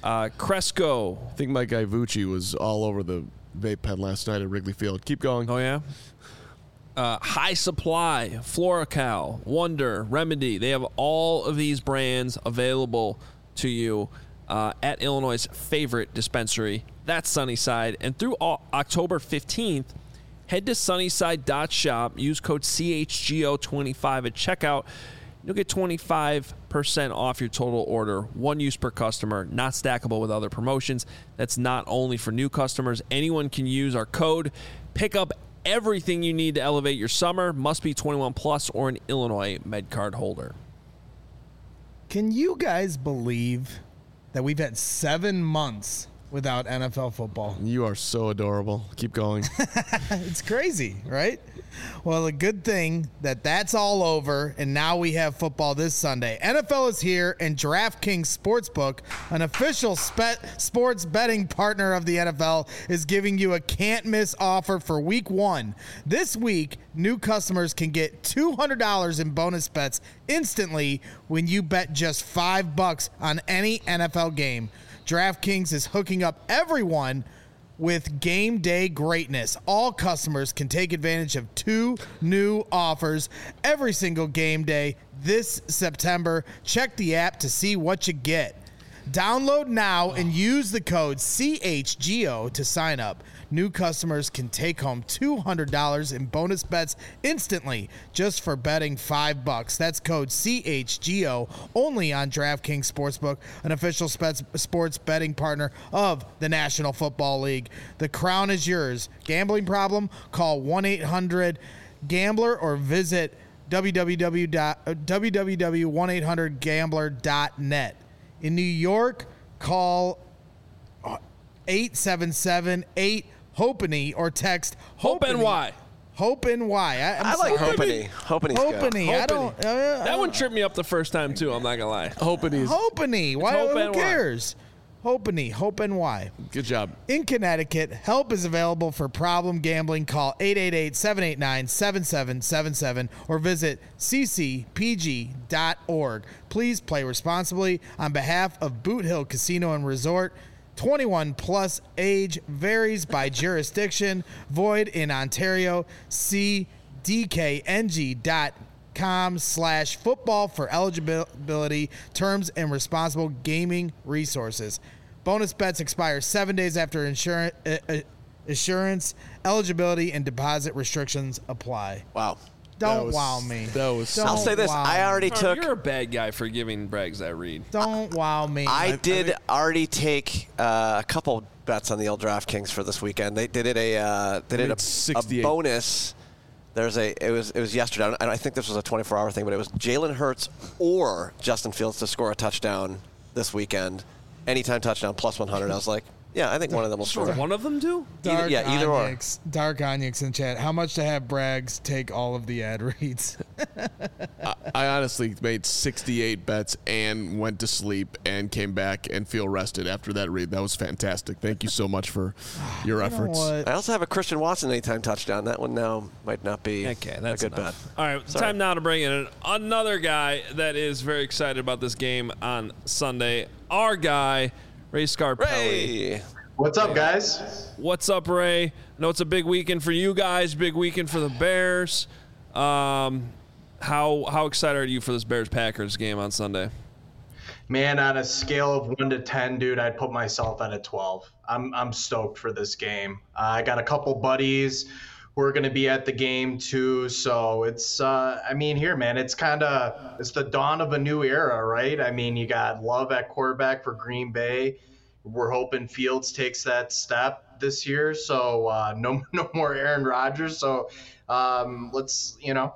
Cresco. I think my guy Vucci was all over the vape pen last night at Wrigley Field. Keep going. Oh, yeah? High Supply, Floracal, Wonder, Remedy. They have all of these brands available to you at Illinois' favorite dispensary. That's Sunnyside. And through October 15th, head to sunnyside.shop. Use code CHGO25 at checkout. You'll get 25% off your total order. One use per customer, not stackable with other promotions. That's not only for new customers. Anyone can use our code. Pick up everything you need to elevate your summer. Must be 21 plus or an Illinois MedCard holder. Can you guys believe that we've had 7 months without NFL football? You are so adorable. Keep going. It's crazy, right? Well, a good thing that that's all over, and now we have football this Sunday. NFL is here, and DraftKings Sportsbook, an official sports betting partner of the NFL, is giving you a can't-miss offer for Week 1. This week, new customers can get $200 in bonus bets instantly when you bet just $5 on any NFL game. DraftKings is hooking up everyone with game day greatness. All customers can take advantage of 2 new offers every single game day this September. Check the app to see what you get. Download now and use the code CHGO to sign up. New customers can take home $200 in bonus bets instantly just for betting $5. That's code CHGO only on DraftKings Sportsbook, an official sports betting partner of the National Football League. The crown is yours. Gambling problem? Call 1-800-GAMBLER or visit www.1800gambler.net. In New York, call 877-8-HOPENY or text HOPE-NY. HOPE-NY. I like Hopeny. Hopeny. HOPENY. I don't. That one tripped me up the first time, too. I'm not going to lie. Hoping HOPENY. Why? Who HOPE-NY. cares? HOPENY. HOPE-NY. Good job. In Connecticut, help is available for problem gambling. Call 888-789-7777 or visit ccpg.org. Please play responsibly. On behalf of Boot Hill Casino and Resort, 21 plus, age varies by jurisdiction, void in Ontario. See dkng.com/football for eligibility, terms, and responsible gaming resources. Bonus bets expire 7 days after assurance. Eligibility and deposit restrictions apply. Wow. Don't wow me. I'll say this. I already took. You're a bad guy for giving Braggs that read. Don't wow me. I did already take a couple bets on the old DraftKings for this weekend. They did a bonus. It was yesterday. I think this was a 24-hour thing, but it was Jalen Hurts or Justin Fields to score a touchdown this weekend. Anytime touchdown plus 100. I was like, yeah, I think one of them will score. One of them do? Either or. Dark Onyx in chat. How much to have Braggs take all of the ad reads? I honestly made 68 bets and went to sleep and came back and feel rested after that read. That was fantastic. Thank you so much for your efforts. I also have a Christian Watson anytime touchdown. That one now might not be a good bet. All right, time now to bring in another guy that is very excited about this game on Sunday. Our guy, Ray Scarpelli. Ray. What's up, guys? What's up, Ray? I know it's a big weekend for you guys, big weekend for the Bears. How excited are you for this Bears-Packers game on Sunday? Man, on a scale of 1 to 10, dude, I'd put myself at a 12. I'm stoked for this game. I got a couple buddies who are going to be at the game too, so it's here, man, it's the dawn of a new era, right? I mean, you got Love at quarterback for Green Bay. We're hoping Fields takes that step this year, so no more Aaron Rodgers. So it's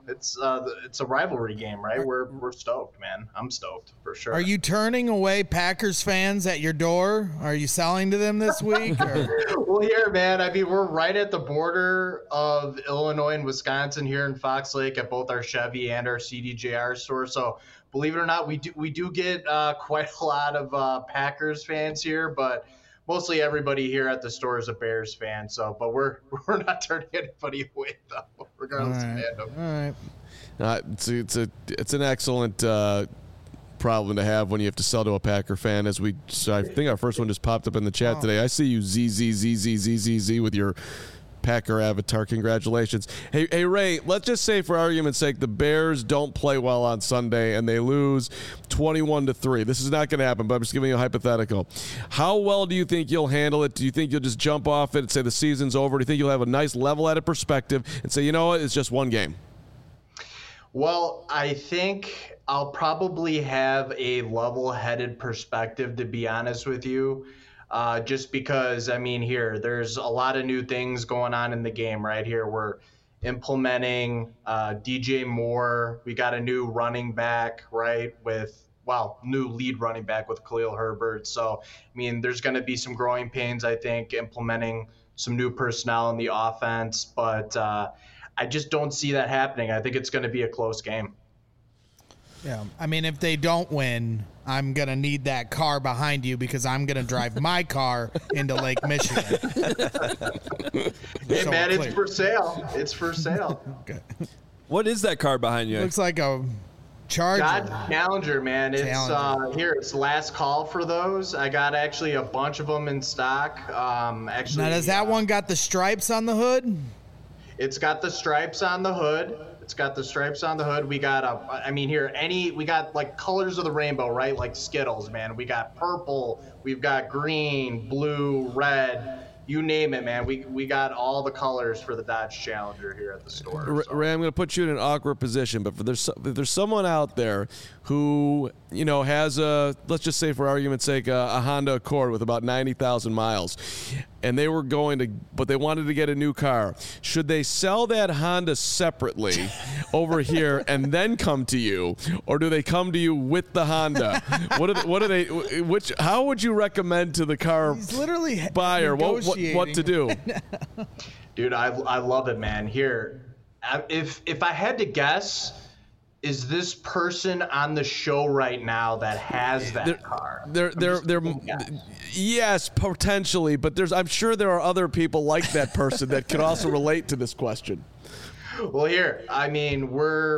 a rivalry game, right? We're stoked, man. I'm stoked for sure. Are you turning away Packers fans at your door? Are you selling to them this week? Well, here, man. I mean, we're right at the border of Illinois and Wisconsin here in Fox Lake at both our Chevy and our CDJR store. So believe it or not, we do get quite a lot of Packers fans here, but mostly everybody here at the store is a Bears fan. So, but we're not turning anybody away though, regardless of fandom. All right. It's an excellent problem to have when you have to sell to a Packer fan. I think our first one just popped up in the chat today. I see you ZZZZZZZ with your Packer avatar. Congratulations. Hey, Ray, let's just say for argument's sake the Bears don't play well on Sunday and they lose 21-3. This is not going to happen, but I'm just giving you a hypothetical. How well do you think you'll handle it? Do you think you'll just jump off it and say the season's over? Do you think you'll have a nice level-headed perspective and say, you know what, it's just one game? Well, I think I'll probably have a level-headed perspective, to be honest with you. Just because, I mean, there's a lot of new things going on in the game right here. We're implementing DJ Moore. We got a new running back, right, new lead running back with Khalil Herbert. So, I mean, there's going to be some growing pains, I think, implementing some new personnel in the offense. But I just don't see that happening. I think it's going to be a close game. Yeah, I mean, if they don't win, I'm going to need that car behind you because I'm going to drive my car into Lake Michigan. Hey, so man, it's for sale. It's for sale. Okay. What is that car behind you? Looks like a Charger. Dodge Challenger, man. It's it's last call for those. I got actually a bunch of them in stock. Now, does that one got the stripes on the hood? It's got the stripes on the hood. We got we got like colors of the rainbow, right? Like Skittles, man. We got purple, we've got green, blue, red, you name it, man. We got all the colors for the Dodge Challenger here at the store. Ray, I'm going to put you in an awkward position, but if there's someone out there who, has let's just say for argument's sake, a Honda Accord with about 90,000 miles, and they wanted to get a new car, should they sell that Honda separately over here and then come to you, or do they come to you with the Honda? How would you recommend to the car buyer what to do? Dude, I love it, man. Here, if I had to guess, is this person on the show right now that has that car? Yes, potentially, but I'm sure there are other people like that person that could also relate to this question. Well, here, I mean,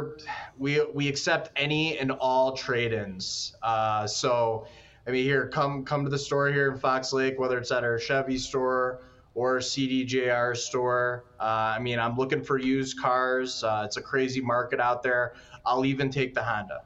we accept any and all trade-ins. So, I mean, here, come to the store here in Fox Lake, whether it's at our Chevy store or CDJR store. I mean, I'm looking for used cars. It's a crazy market out there. I'll even take the Honda.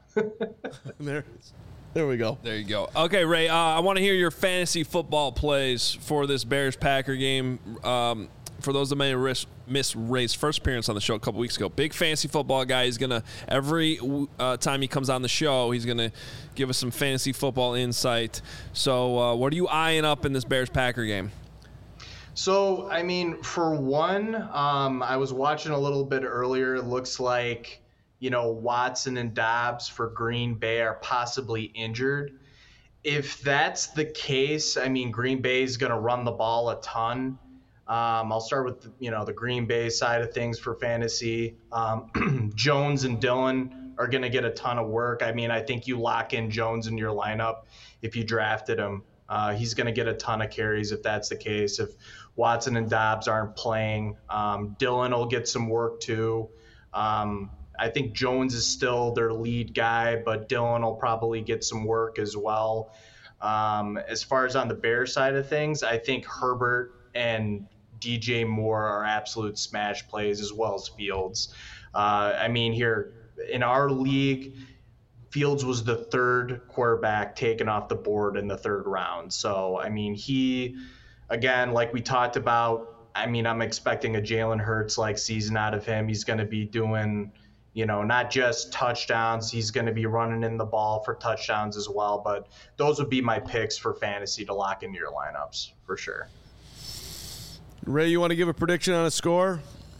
There we go. There you go. Okay, Ray, I want to hear your fantasy football plays for this Bears-Packer game. For those that may have missed Ray's first appearance on the show a couple weeks ago, big fantasy football guy. He's going to, every time he comes on the show, he's going to give us some fantasy football insight. So what are you eyeing up in this Bears-Packer game? So, I mean, for one, I was watching a little bit earlier. It looks like, Watson and Dobbs for Green Bay are possibly injured. If that's the case, I mean, Green Bay is going to run the ball a ton. I'll start with, the Green Bay side of things for fantasy. Jones and Dillon are going to get a ton of work. I mean, I think you lock in Jones in your lineup if you drafted him. He's going to get a ton of carries if that's the case. If Watson and Dobbs aren't playing, Dillon will get some work too. I think Jones is still their lead guy, but Dillon will probably get some work as well. As far as on the Bears side of things, I think Herbert and DJ Moore are absolute smash plays, as well as Fields. I mean, here in our league, Fields was the third quarterback taken off the board in the third round. So, I mean, he, again, like we talked about, I mean, I'm expecting a Jalen Hurts-like season out of him. He's going to be doing, not just touchdowns. He's going to be running in the ball for touchdowns as well. But those would be my picks for fantasy to lock into your lineups for sure. Ray, you want to give a prediction on a score?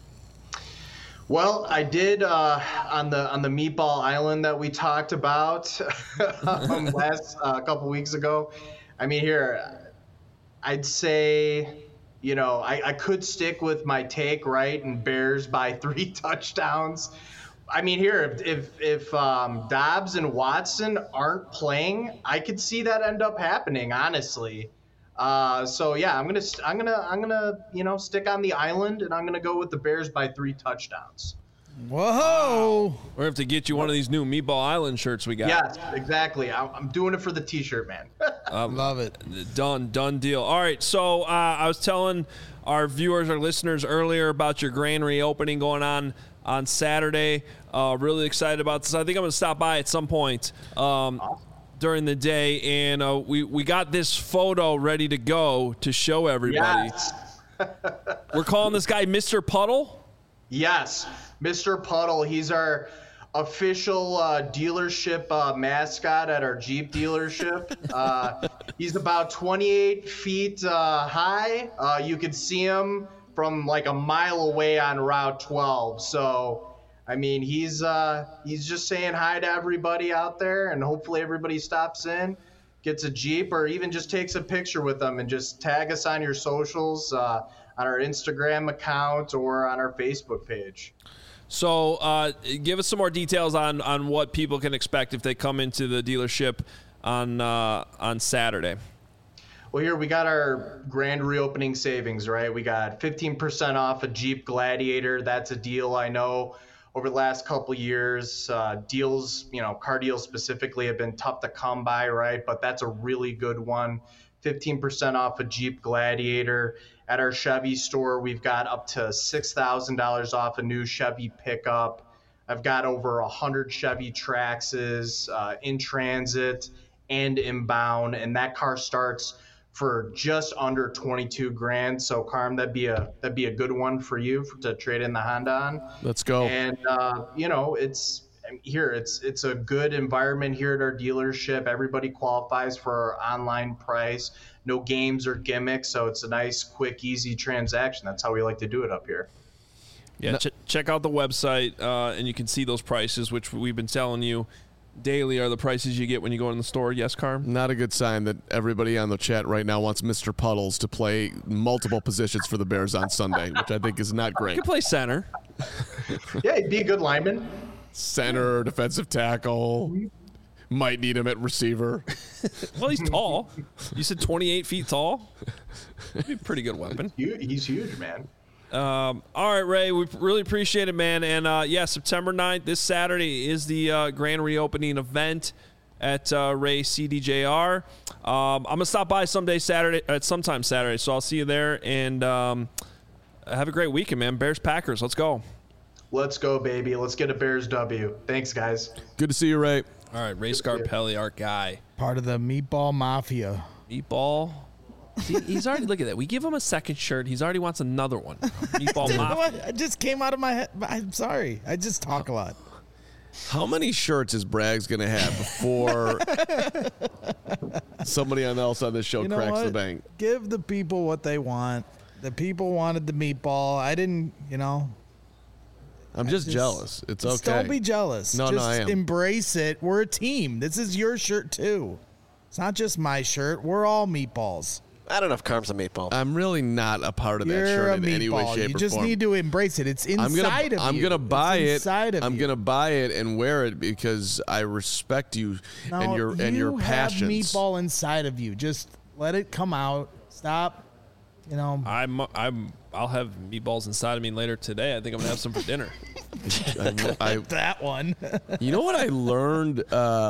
Well, I did on the Meatball Island that we talked about last couple weeks ago. I mean, here, I'd say, I could stick with my take, right, and Bears by 3 touchdowns. I mean, here, if Dobbs and Watson aren't playing, I could see that end up happening, honestly. So yeah, I'm gonna stick on the island, and I'm gonna go with the Bears by 3 touchdowns. Whoa. We're have to get you one of these new Meatball Island shirts we got. Yes, exactly. I'm doing it for the T-shirt, man. Love it. Done deal. All right, so I was telling our viewers, our listeners earlier about your grand reopening going on Saturday. Really excited about this. I think I'm going to stop by at some point during the day, and we got this photo ready to go to show everybody. Yes. We're calling this guy Mr. Puddle? Yes, Mr. Puddle. He's our official dealership mascot at our Jeep dealership. He's about 28 feet high. You can see him from like a mile away on Route 12. So, I mean, he's just saying hi to everybody out there, and hopefully everybody stops in, gets a Jeep, or even just takes a picture with them and just tag us on your socials, on our Instagram account or on our Facebook page. So give us some more details on what people can expect if they come into the dealership on Saturday. Well, here we got our grand reopening savings, right? We got 15% off a Jeep Gladiator. That's a deal I know over the last couple years. Deals, car deals specifically have been tough to come by, right? But that's a really good one. 15% off a Jeep Gladiator. At our Chevy store, we've got up to $6,000 off a new Chevy pickup. I've got over 100 Chevy Traxxas in transit and inbound, and that car starts for just under 22 grand. So, Carm, that'd be a good one for you to trade in the Honda on. Let's go. And it's a good environment here at our dealership. Everybody qualifies for our online price. No games or gimmicks, so it's a nice, quick, easy transaction. That's how we like to do it up here. Yeah, check out the website, and you can see those prices, which we've been telling you daily are the prices you get when you go in the store. Yes, Carm? Not a good sign that everybody on the chat right now wants Mr. Puddles to play multiple positions for the Bears on Sunday, which I think is not great. You can play center. Yeah, he'd be a good lineman. Center, defensive tackle. Might need him at receiver. Well, he's tall. You said 28 feet tall? That'd be a pretty good weapon. He's huge, man. All right, Ray, we really appreciate it, man. And, September 9th, this Saturday, is the grand reopening event at Ray CDJR. I'm going to stop by sometime Saturday, so I'll see you there. And have a great weekend, man. Bears-Packers, let's go. Let's go, baby. Let's get a Bears W. Thanks, guys. Good to see you, Ray. All right, Ray Scarpelli, our guy. Part of the Meatball Mafia. Meatball. See, he's already, look at that. We give him a second shirt. He's already wants another one. Meatball Mafia. It just came out of my head. I'm sorry. I just talk a lot. How many shirts is Braggs going to have before somebody else on this show cracks the bank? Give the people what they want. The people wanted the meatball. I didn't, I'm just jealous. It's okay. Don't be jealous. No, I am. Embrace it. We're a team. This is your shirt, too. It's not just my shirt. We're all meatballs. I don't know if Carm's a meatball. I'm really not a part of that You're shirt in a any way, meatball. shape, You or just form. need to embrace it. It's inside of you. I'm gonna buy it. Inside of I'm you. gonna buy it and wear it because I respect you and your You passions. have meatball inside of you. Just let it come out. Stop. I'll have meatballs inside of me later today. I think I'm gonna have some for dinner. That one. You know what I learned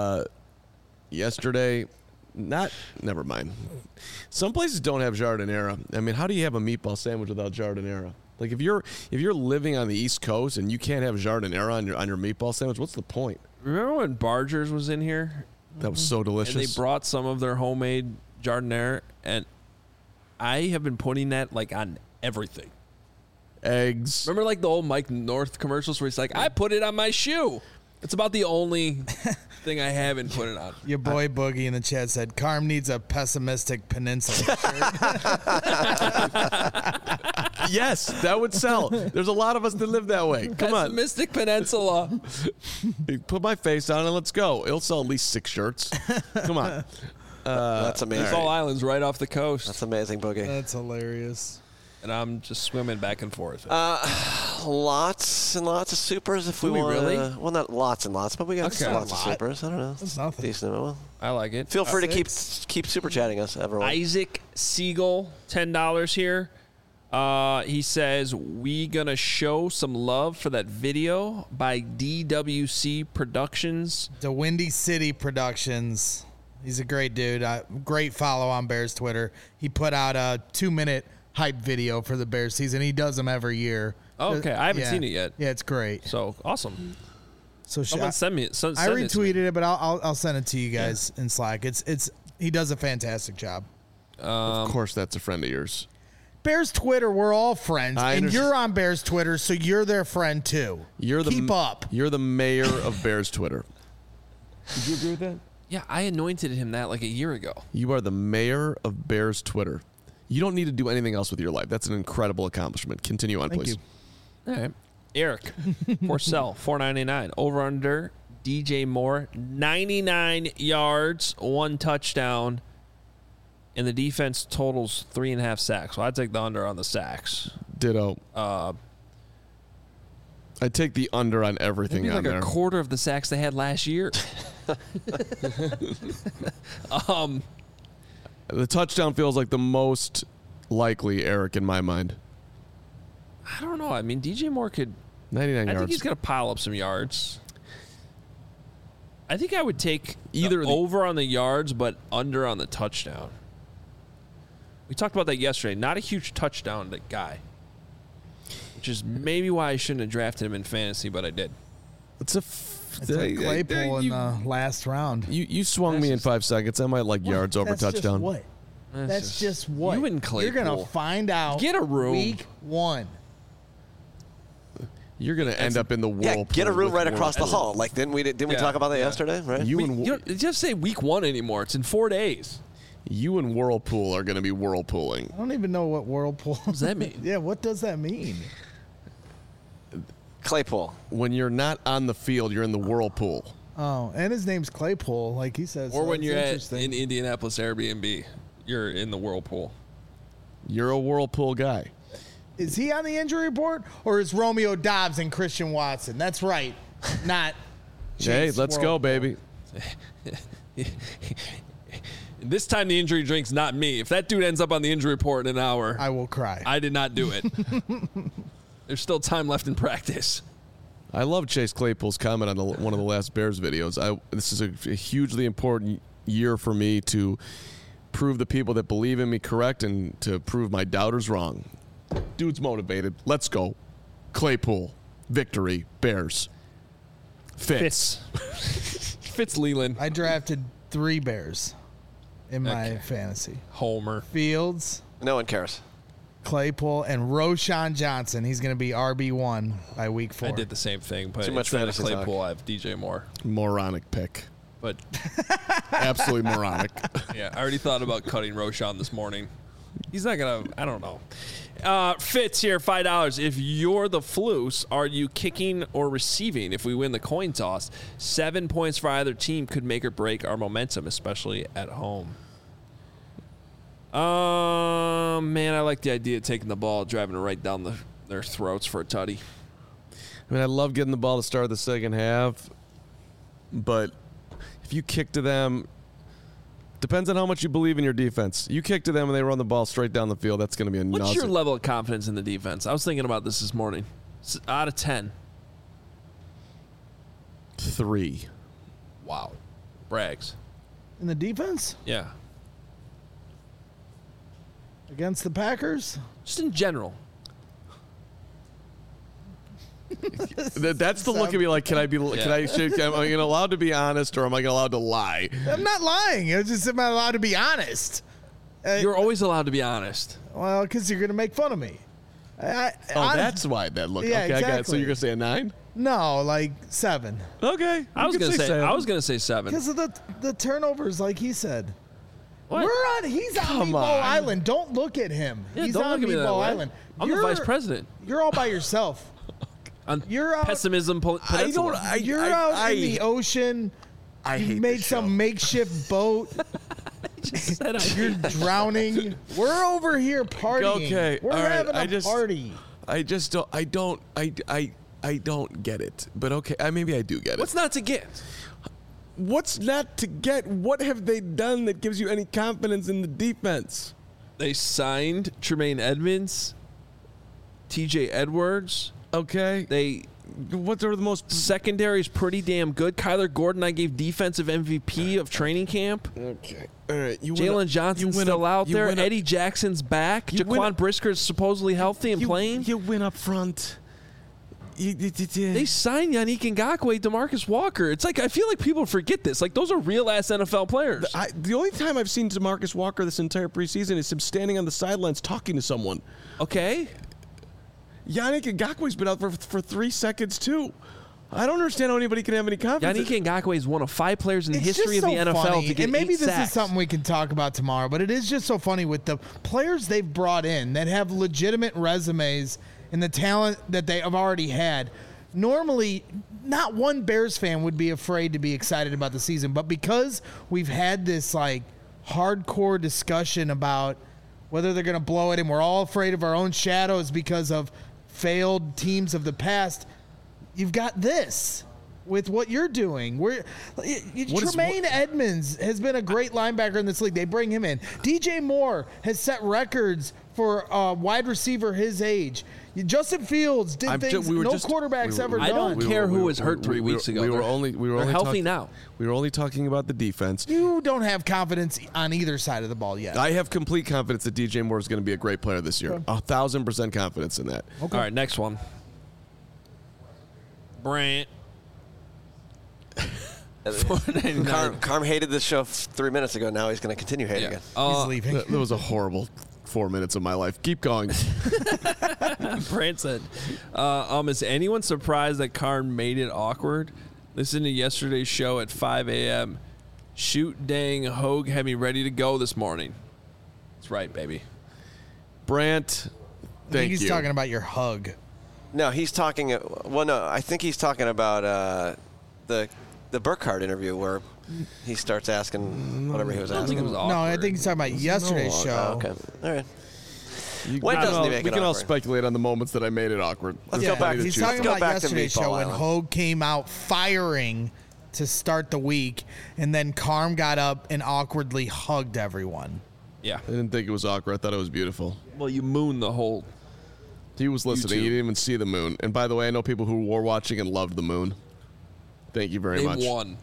yesterday? Never mind. Some places don't have giardiniera. I mean, how do you have a meatball sandwich without giardiniera? Like if you're living on the East Coast and you can't have giardiniera on your meatball sandwich, what's the point? Remember when Barger's was in here? That was so delicious. And they brought some of their homemade giardiniera, and I have been putting that on everything. Eggs. Remember the old Mike North commercials where he's like, I put it on my shoe. It's about the only thing I haven't put it on. Your boy Boogie in the chat said, Carm needs a pessimistic peninsula shirt. Yes, that would sell. There's a lot of us that live that way. Come on. Pessimistic Peninsula. Put my face on and let's go. It'll sell at least 6 shirts. Come on. That's amazing. Fall Island's right off the coast. That's amazing, Boogie. That's hilarious. And I'm just swimming back and forth. Lots and lots of supers if we want. Really? Well, not lots and lots, but we got lots of supers. I don't know. That's nothing. Decent amount. I like it. Feel free to keep super chatting us, everyone. Isaac Siegel, $10 here. He says, we going to show some love for that video by DWC Productions. The Windy City Productions. He's a great dude. Great follow on Bears Twitter. He put out a 2-minute hype video for the Bears season. He does them every year. Oh, okay. I haven't seen it yet. Yeah, it's great. So, awesome. So someone send me. Send I it to me. retweeted it, but I'll send it to you guys in Slack. It's he does a fantastic job. Of course, that's a friend of yours. Bears Twitter, we're all friends, and you're on Bears Twitter, so you're their friend too. Keep up. You're the mayor of Bears Twitter. Did you agree with that? Yeah, I anointed him that like a year ago. You are the mayor of Bears Twitter. You don't need to do anything else with your life. That's an incredible accomplishment. Continue on, Thank please. You. All right. Eric, Porcel, $4.99. Over under DJ Moore, 99 yards, 1 touchdown, and the defense totals 3.5 sacks. So I'd take the under on the sacks. Ditto. I'd take the under on everything Maybe on like there. a quarter of the sacks they had last year. The touchdown feels like the most likely, Eric, in my mind. I don't know. I mean, DJ Moore could. 99 I yards. think he's going to pile up some yards. I think I would take Either the over on the yards, but under on the touchdown. We talked about that yesterday. Not a huge touchdown guy, which is maybe why I shouldn't have drafted him in fantasy, but I did. It's like Claypool in the last round. You swung me in 5 seconds. I might like yards over touchdown. What? That's just what? You and Claypool. You're going to find out. Get a room. Week 1. You're going to end up in the whirlpool. Yeah, get a room right with across the hall. Like, didn't we talk about that yesterday? Right? You don't just say week 1 anymore. It's in 4 days. You and Whirlpool are going to be whirlpooling. I don't even know what whirlpool. What does that mean? Yeah, what does that mean? Claypool. When you're not on the field, you're in the whirlpool. Oh, and his name's Claypool, like he says. Or so when that's you're interesting. in Indianapolis Airbnb, you're in the whirlpool. You're a whirlpool guy. Is he on the injury report, or is Romeo Dobbs and Christian Watson? That's right, not. Hey, Chase let's go, Whirlpool. baby. This time the injury drink's not me. If that dude ends up on the injury report in an hour, I will cry. I did not do it. There's still time left in practice. I love Chase Claypool's comment on one of the last Bears videos. This is a hugely important year for me to prove the people that believe in me correct and to prove my doubters wrong. Dude's motivated. Let's go. Claypool. Victory. Bears. Fitz. Fitz Leland. I drafted 3 Bears in my fantasy. Homer. Fields, No one cares. Claypool, and Roshan Johnson. He's going to be RB1 by week 4. I did the same thing, but Too much instead of fantasy Claypool, talk. I have DJ Moore. Moronic pick. But Absolutely moronic. yeah, I already thought about cutting Roshan this morning. He's not going to, I don't know. Fitz here, $5. If you're the Flus, are you kicking or receiving if we win the coin toss? 7 points for either team could make or break our momentum, especially at home. Man, I like the idea of taking the ball, driving it right down their throats for a tutty. I mean, I love getting the ball to start the second half, but if you kick to them, depends on how much you believe in your defense. You kick to them and they run the ball straight down the field, that's going to be a What's your nausea. level of confidence in the defense? I was thinking about this morning. Out of 10. 3. Wow. Brags. In the defense Yeah. against the Packers? Just in general. That's the look at me like, am I allowed to be honest or am I allowed to lie? I'm not lying. It's just am I allowed to be honest? You're always allowed to be honest. Well, because you're going to make fun of me. That's why that look. Yeah, okay, I got it. So exactly. you're gonna say a 9? No, like 7. Okay. I was gonna say 7. Because of the turnovers, like he said. What? He's on Come Meatball on. Island. Don't look at him. Yeah, He's don't on look at me that Meatball way. Island. I'm the vice president. You're all by yourself. On You're out. Pessimism Peninsula. You're out in the ocean. I You hate made this some show. makeshift boat. Just said You're drowning. We're over here partying. Okay, We're all right, having I a just- party. I just don't. I don't get it. But okay, maybe I do get it. What's not to get? What's not to get? What have they done that gives you any confidence in the defense? They signed Tremaine Edmonds TJ Edwards. Okay. What are the most Secondary is pretty damn good. Kyler Gordon, I gave defensive MVP of training camp. Okay. All right. Jalen Johnson's still out there. Eddie Jackson's back. Jaquan Brisker's supposedly healthy and playing. You win up front. They signed Yannick Ngakoue, DeMarcus Walker. It's like I feel like people forget this. Like those are real ass NFL players. The only time I've seen DeMarcus Walker this entire preseason is him standing on the sidelines talking to someone. Okay. Yannick Ngakoue's been out for 3 seconds too. I don't understand how anybody can have any confidence. Yannick Ngakoue is one of 5 players in the history of the NFL funny. to get and maybe 8 this sacks. is something we can talk about tomorrow, but it is just so funny with the players they've brought in that have legitimate resumes and the talent that they have already had. Normally, not one Bears fan would be afraid to be excited about the season, but because we've had this like hardcore discussion about whether they're going to blow it and we're all afraid of our own shadows because of failed teams of the past, you've got this with what you're doing. Tremaine Edmonds has been a great linebacker in this league. They bring him in. DJ Moore has set records for a wide receiver his age. Justin Fields did things quarterbacks ever done. I don't care who was hurt 3 weeks ago. We were only healthy now. We were only talking about the defense. You don't have confidence on either side of the ball yet. I have complete confidence that DJ Moore is going to be a great player this year. 1,000% confidence in that. Okay. All right, next one. Brant. Carm hated this show 3 minutes ago. Now he's going to continue hating it. He's leaving. That was a horrible 4 minutes of my life. Keep going. Brant said, is anyone surprised that Karn made it awkward? Listen to yesterday's show at 5 a.m. Shoot dang Hogue had me ready to go this morning. That's right, baby. Brant, I think he's talking about your hug. No, he's talking. Well, no, I think he's talking about the Burkhardt interview where he starts asking whatever he was asking. I think it was awkward. No, I think he's talking about yesterday's show. Oh, okay, all right. We can all speculate on the moments that I made it awkward. Let's go back. He's talking about yesterday's show when Hogue came out firing to start the week, and then Carm got up and awkwardly hugged everyone. Yeah. I didn't think it was awkward. I thought it was beautiful. Well, you mooned the whole. He was listening. He didn't even see the moon. And by the way, I know people who were watching and loved the moon. Thank you very much. They won.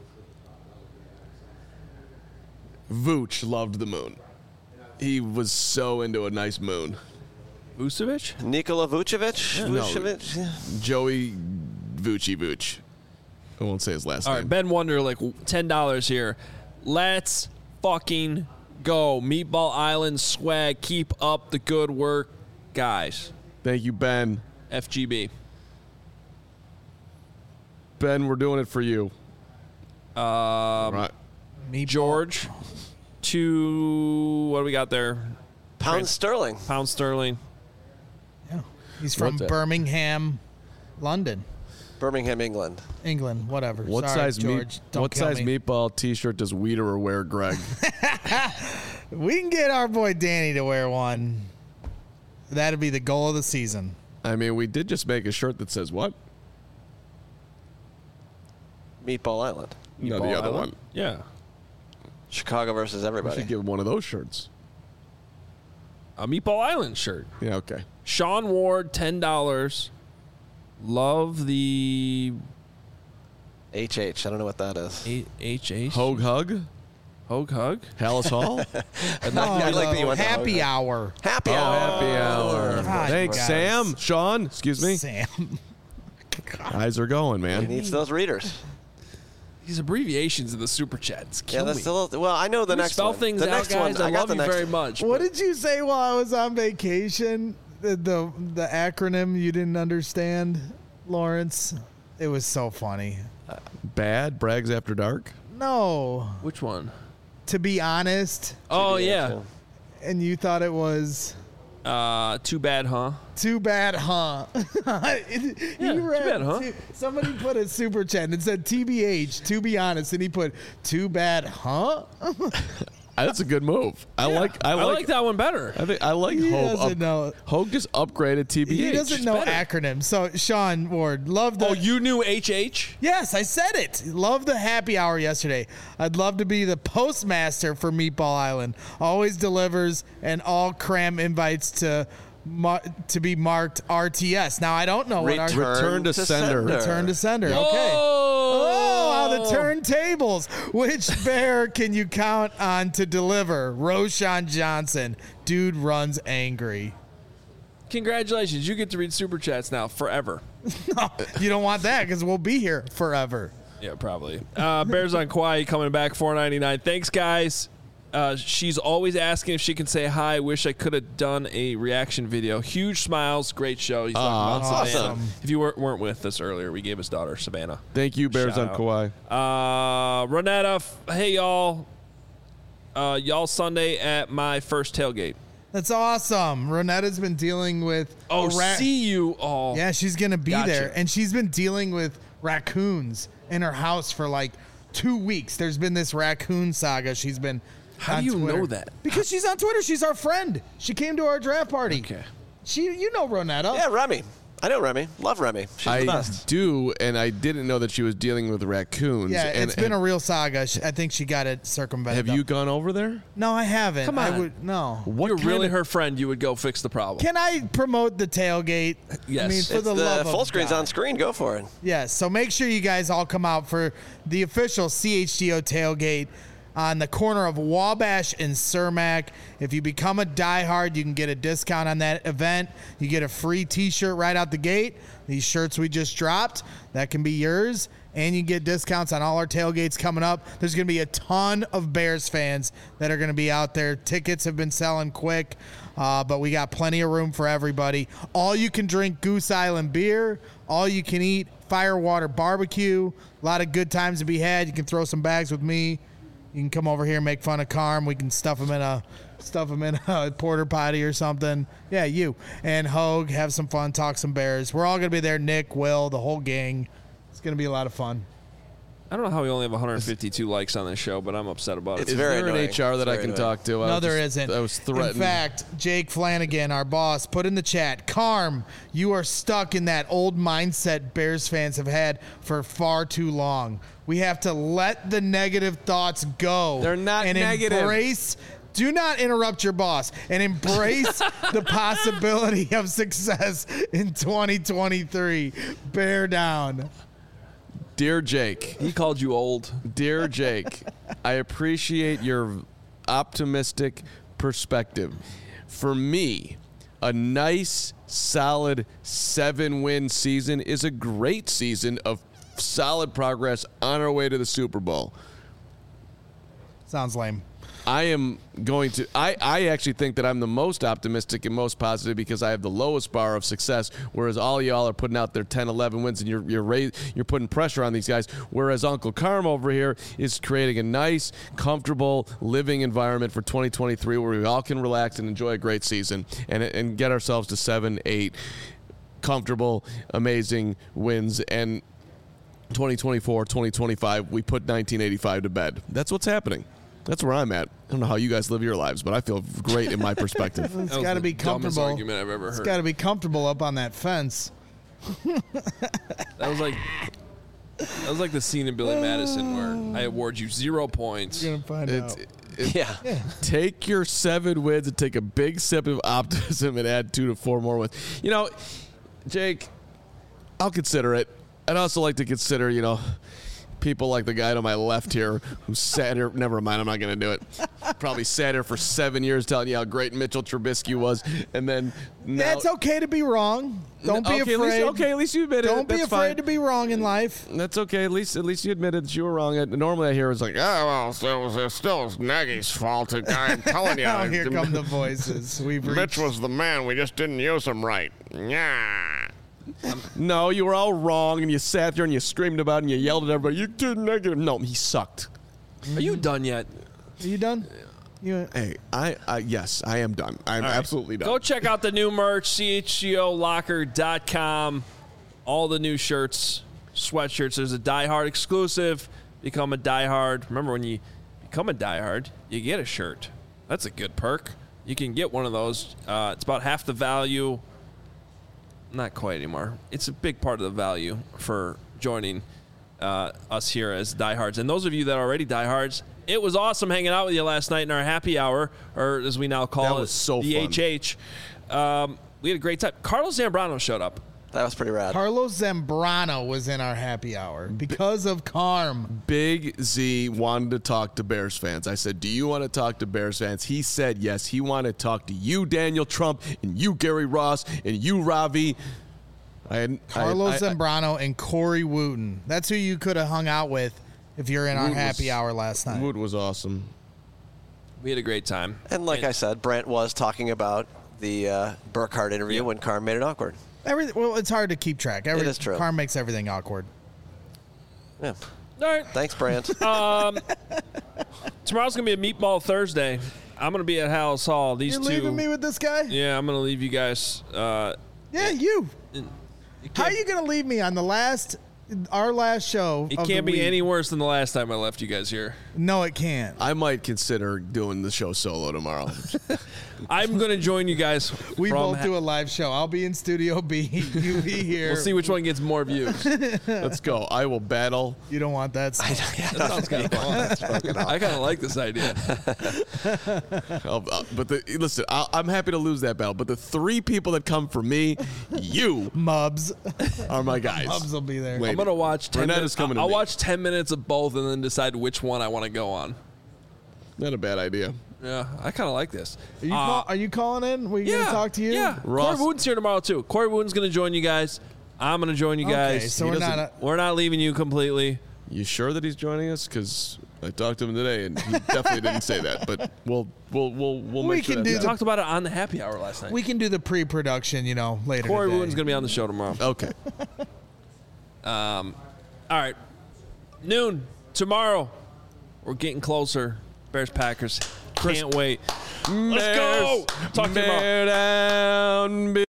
Vooch loved the moon. He was so into a nice moon. Vucevic? Nikola Vucevic? Yeah. Vucevic? No, Joey Vooch. I won't say his last name. All right, Ben Wonderlick, $10 here. Let's fucking go. Meatball Island swag. Keep up the good work, guys. Thank you, Ben. FGB. Ben, we're doing it for you. Right. George. What do we got there? Pound sterling. Yeah. He's from Birmingham, London. Birmingham, England. Whatever. What Sorry, size George. What size meatball T-shirt does Wiederer wear, Greg? We can get our boy Danny to wear one. That'd be the goal of the season. I mean, we did just make a shirt that says what? Meatball Island. No, the other one. Yeah. Chicago versus We everybody. should give one of those shirts. A Meatball Island shirt. Yeah, okay. Sean Ward, $10. Love the HH. I don't know what that is. HH. Hogue Hug? Hogue Hug? Hallis Hall? I like that you went to Happy Hogue. hour. Happy hour. Happy hour. God, Thanks, guys. Sam. Sean, excuse me. Sam. Eyes are going, He man. needs those readers. These abbreviations in the super chats kill That's me. a little. Well, I know the Can we next spell one. things the out, next guys. one. I got love the you next very one. much. What did you say while I was on vacation? The acronym you didn't understand, Lawrence? It was so funny. Bad Brags After Dark? No. Which one? To be honest. Oh, yeah. And you thought it was Too bad, huh? too bad, huh? Too bad, huh? Somebody put a super chat and it said TBH, to be honest, and he put too bad, huh? That's a good move. I like that one better. I like He Hogue. doesn't know. Hogue just upgraded TBH. He doesn't know better. acronyms. So Sean Ward, love the. Oh, you knew HH? Yes, I said it. Love the happy hour yesterday. I'd love to be the postmaster for Meatball Island. Always delivers and all cram invites to to be marked RTS. Now I don't know what Return to sender. Return to sender. Okay. Oh, the turntables. Which bear can you count on to deliver? Roschon Johnson. Dude runs angry. Congratulations. You get to read Super Chats now forever. No, you don't want that because we'll be here forever. Yeah, probably. Bears on Kauai coming back, $4.99. Thanks, guys. She's always asking if she can say hi. Wish I could have done a reaction video. Huge smiles. Great show. He's talking about Savannah. Awesome. If you weren't with us earlier, we gave his daughter Savannah. Thank you, Bears Shout on Kauai. Ronetta, hey, y'all. Y'all Sunday at my first tailgate. That's awesome. Ronetta's been dealing with see you all. Yeah, she's going to be Gotcha. there. And she's been dealing with raccoons in her house for like 2 weeks. There's been this raccoon saga. She's been How on do you Twitter. know that? Because she's on Twitter. She's our friend. She came to our draft party. Okay. You know Ronetta. Yeah, Remy. I know Remy. Love Remy. She's the I best. do, and I didn't know that she was dealing with raccoons. Yeah, and, it's been a real saga. I think she got it circumvented. Have you gone over there? No, I haven't. Come I on. would no. What You're kind really of- her friend. You would go fix the problem. Can I promote the tailgate? Yes. I mean, for It's the love full of screen's God. on screen. Go for it. Yes, so make sure you guys all come out for the official CHGO tailgate on the corner of Wabash and Cermak. If you become a diehard, you can get a discount on that event. You get a free T-shirt right out the gate. These shirts we just dropped, that can be yours. And you get discounts on all our tailgates coming up. There's going to be a ton of Bears fans that are going to be out there. Tickets have been selling quick, but we got plenty of room for everybody. All you can drink Goose Island beer. All you can eat Firewater barbecue. A lot of good times to be had. You can throw some bags with me. You can come over here and make fun of Carm. We can stuff him in a porter potty or something. Yeah, you and Hogue, have some fun, talk some Bears. We're all gonna be there. Nick, Will, the whole gang. It's gonna be a lot of fun. I don't know how we only have 152 likes on this show, but I'm upset about it. It's Is very there an annoying. HR that It's I very can annoying. talk to? No, there isn't. I was threatened. In fact, Jake Flanagan, our boss, put in the chat, Carm, you are stuck in that old mindset Bears fans have had for far too long. We have to let the negative thoughts go. They're not and negative. Embrace. Do not interrupt your boss and embrace the possibility of success in 2023. Bear down. Dear Jake, He called you old. dear Jake, I appreciate your optimistic perspective. For me, a nice, solid 7-win season is a great season of solid progress on our way to the Super Bowl. Sounds lame. I am going to. I actually think that I'm the most optimistic and most positive because I have the lowest bar of success, whereas all y'all are putting out their 10, 11 wins, and you're putting pressure on these guys. Whereas Uncle Carm over here is creating a nice, comfortable living environment for 2023, where we all can relax and enjoy a great season and get ourselves to 7, 8 comfortable, amazing wins. And 2024, 2025, we put 1985 to bed. That's what's happening. That's where I'm at. I don't know how you guys live your lives, but I feel great in my perspective. It's That was got to the be dumbest comfortable. argument I've ever It's heard. got to be comfortable up on that fence. That was like the scene in Billy Madison where I award you 0 points. You're gonna find out. Yeah. Take your 7 wins and take a big sip of optimism and add 2 to 4 more wins. You know, Jake, I'll consider it. I'd also like to consider, people like the guy to my left here who sat here. Never mind, I'm not going to do it. Probably sat here for 7 years telling you how great Mitchell Trubisky was. And then now, That's okay to be wrong. Don't be okay, afraid. At least you admit it. Don't be That's afraid fine. to be wrong in life. That's okay. At least you admitted that you were wrong. Normally I hear it's like, oh, well, it's still Nagy's fault. I'm telling you. Oh, here come the voices. We've Mitch reached. was the man. We just didn't use him right. Yeah. No, you were all wrong, and you sat there and you screamed about it and you yelled at everybody. You did negative. No, he sucked. Are you done yet? Are you done? You, Hey, yes, I am done. I'm absolutely done. Go check out the new merch, chgolocker.com. All the new shirts, sweatshirts. There's a Die Hard exclusive. Become a Die Hard. Remember, when you become a Die Hard, you get a shirt. That's a good perk. You can get one of those. It's about half the value. Not quite anymore. It's a big part of the value for joining us here as diehards. And those of you that are already diehards, it was awesome hanging out with you last night in our happy hour, or as we now call That it, was so the fun. HH. we had a great time. Carlos Zambrano showed up. That was pretty rad. Carlos Zambrano was in our happy hour because of Carm. Big Z wanted to talk to Bears fans. I said, do you want to talk to Bears fans? He said yes. He wanted to talk to you, Daniel Trump, and you, Gary Ross, and you, Ravi. Carlos Zambrano and Corey Wooten. That's who you could have hung out with if you're in our happy hour last night. Wood was awesome. We had a great time. And like I said, Brant was talking about the Burkhardt interview when Carm made it awkward. Well, it's hard to keep track. It is true. Carm makes everything awkward. Yeah. All right. Thanks, Brant. Tomorrow's going to be a Meatball Thursday. I'm going to be at Hallis Hall. These You're two. leaving me with this guy? Yeah, I'm going to leave you guys. Yeah, you. How are you going to leave me on our last show? It can't be any worse than the last time I left you guys here. No, it can't. I might consider doing the show solo tomorrow. I'm going to join you guys. We both do a live show. I'll be in Studio B. You be here. We'll see which one gets more views. Let's go. I will battle. You don't want that stuff. That sounds kind of fun. I kind of like this idea. Listen, I'm happy to lose that battle. But the 3 people that come for me, you, Mubs, are my guys. Mubs will be there. Wait. I'm going to watch 10 Renette minutes. is coming to I'll me. watch 10 minutes of both and then decide which one I want to go on. Not a bad idea. Yeah, I kind of like this. Are you calling in? We going to talk to you? Yeah. Ross- Corey Wooten's here tomorrow, too. Corey Wooten's going to join you guys. I'm going to join you guys. Okay, so we're not leaving you completely. You sure that he's joining us? Because I talked to him today, and he definitely didn't say that. But we'll make sure can do We that's talked about it on the happy hour last night. We can do the pre-production, later Corey today. Wooten's going to be on the show tomorrow. okay. All right. Noon tomorrow. We're getting closer. Bears Packers. Can't wait. Let's go. Talk to you tomorrow. Bear down.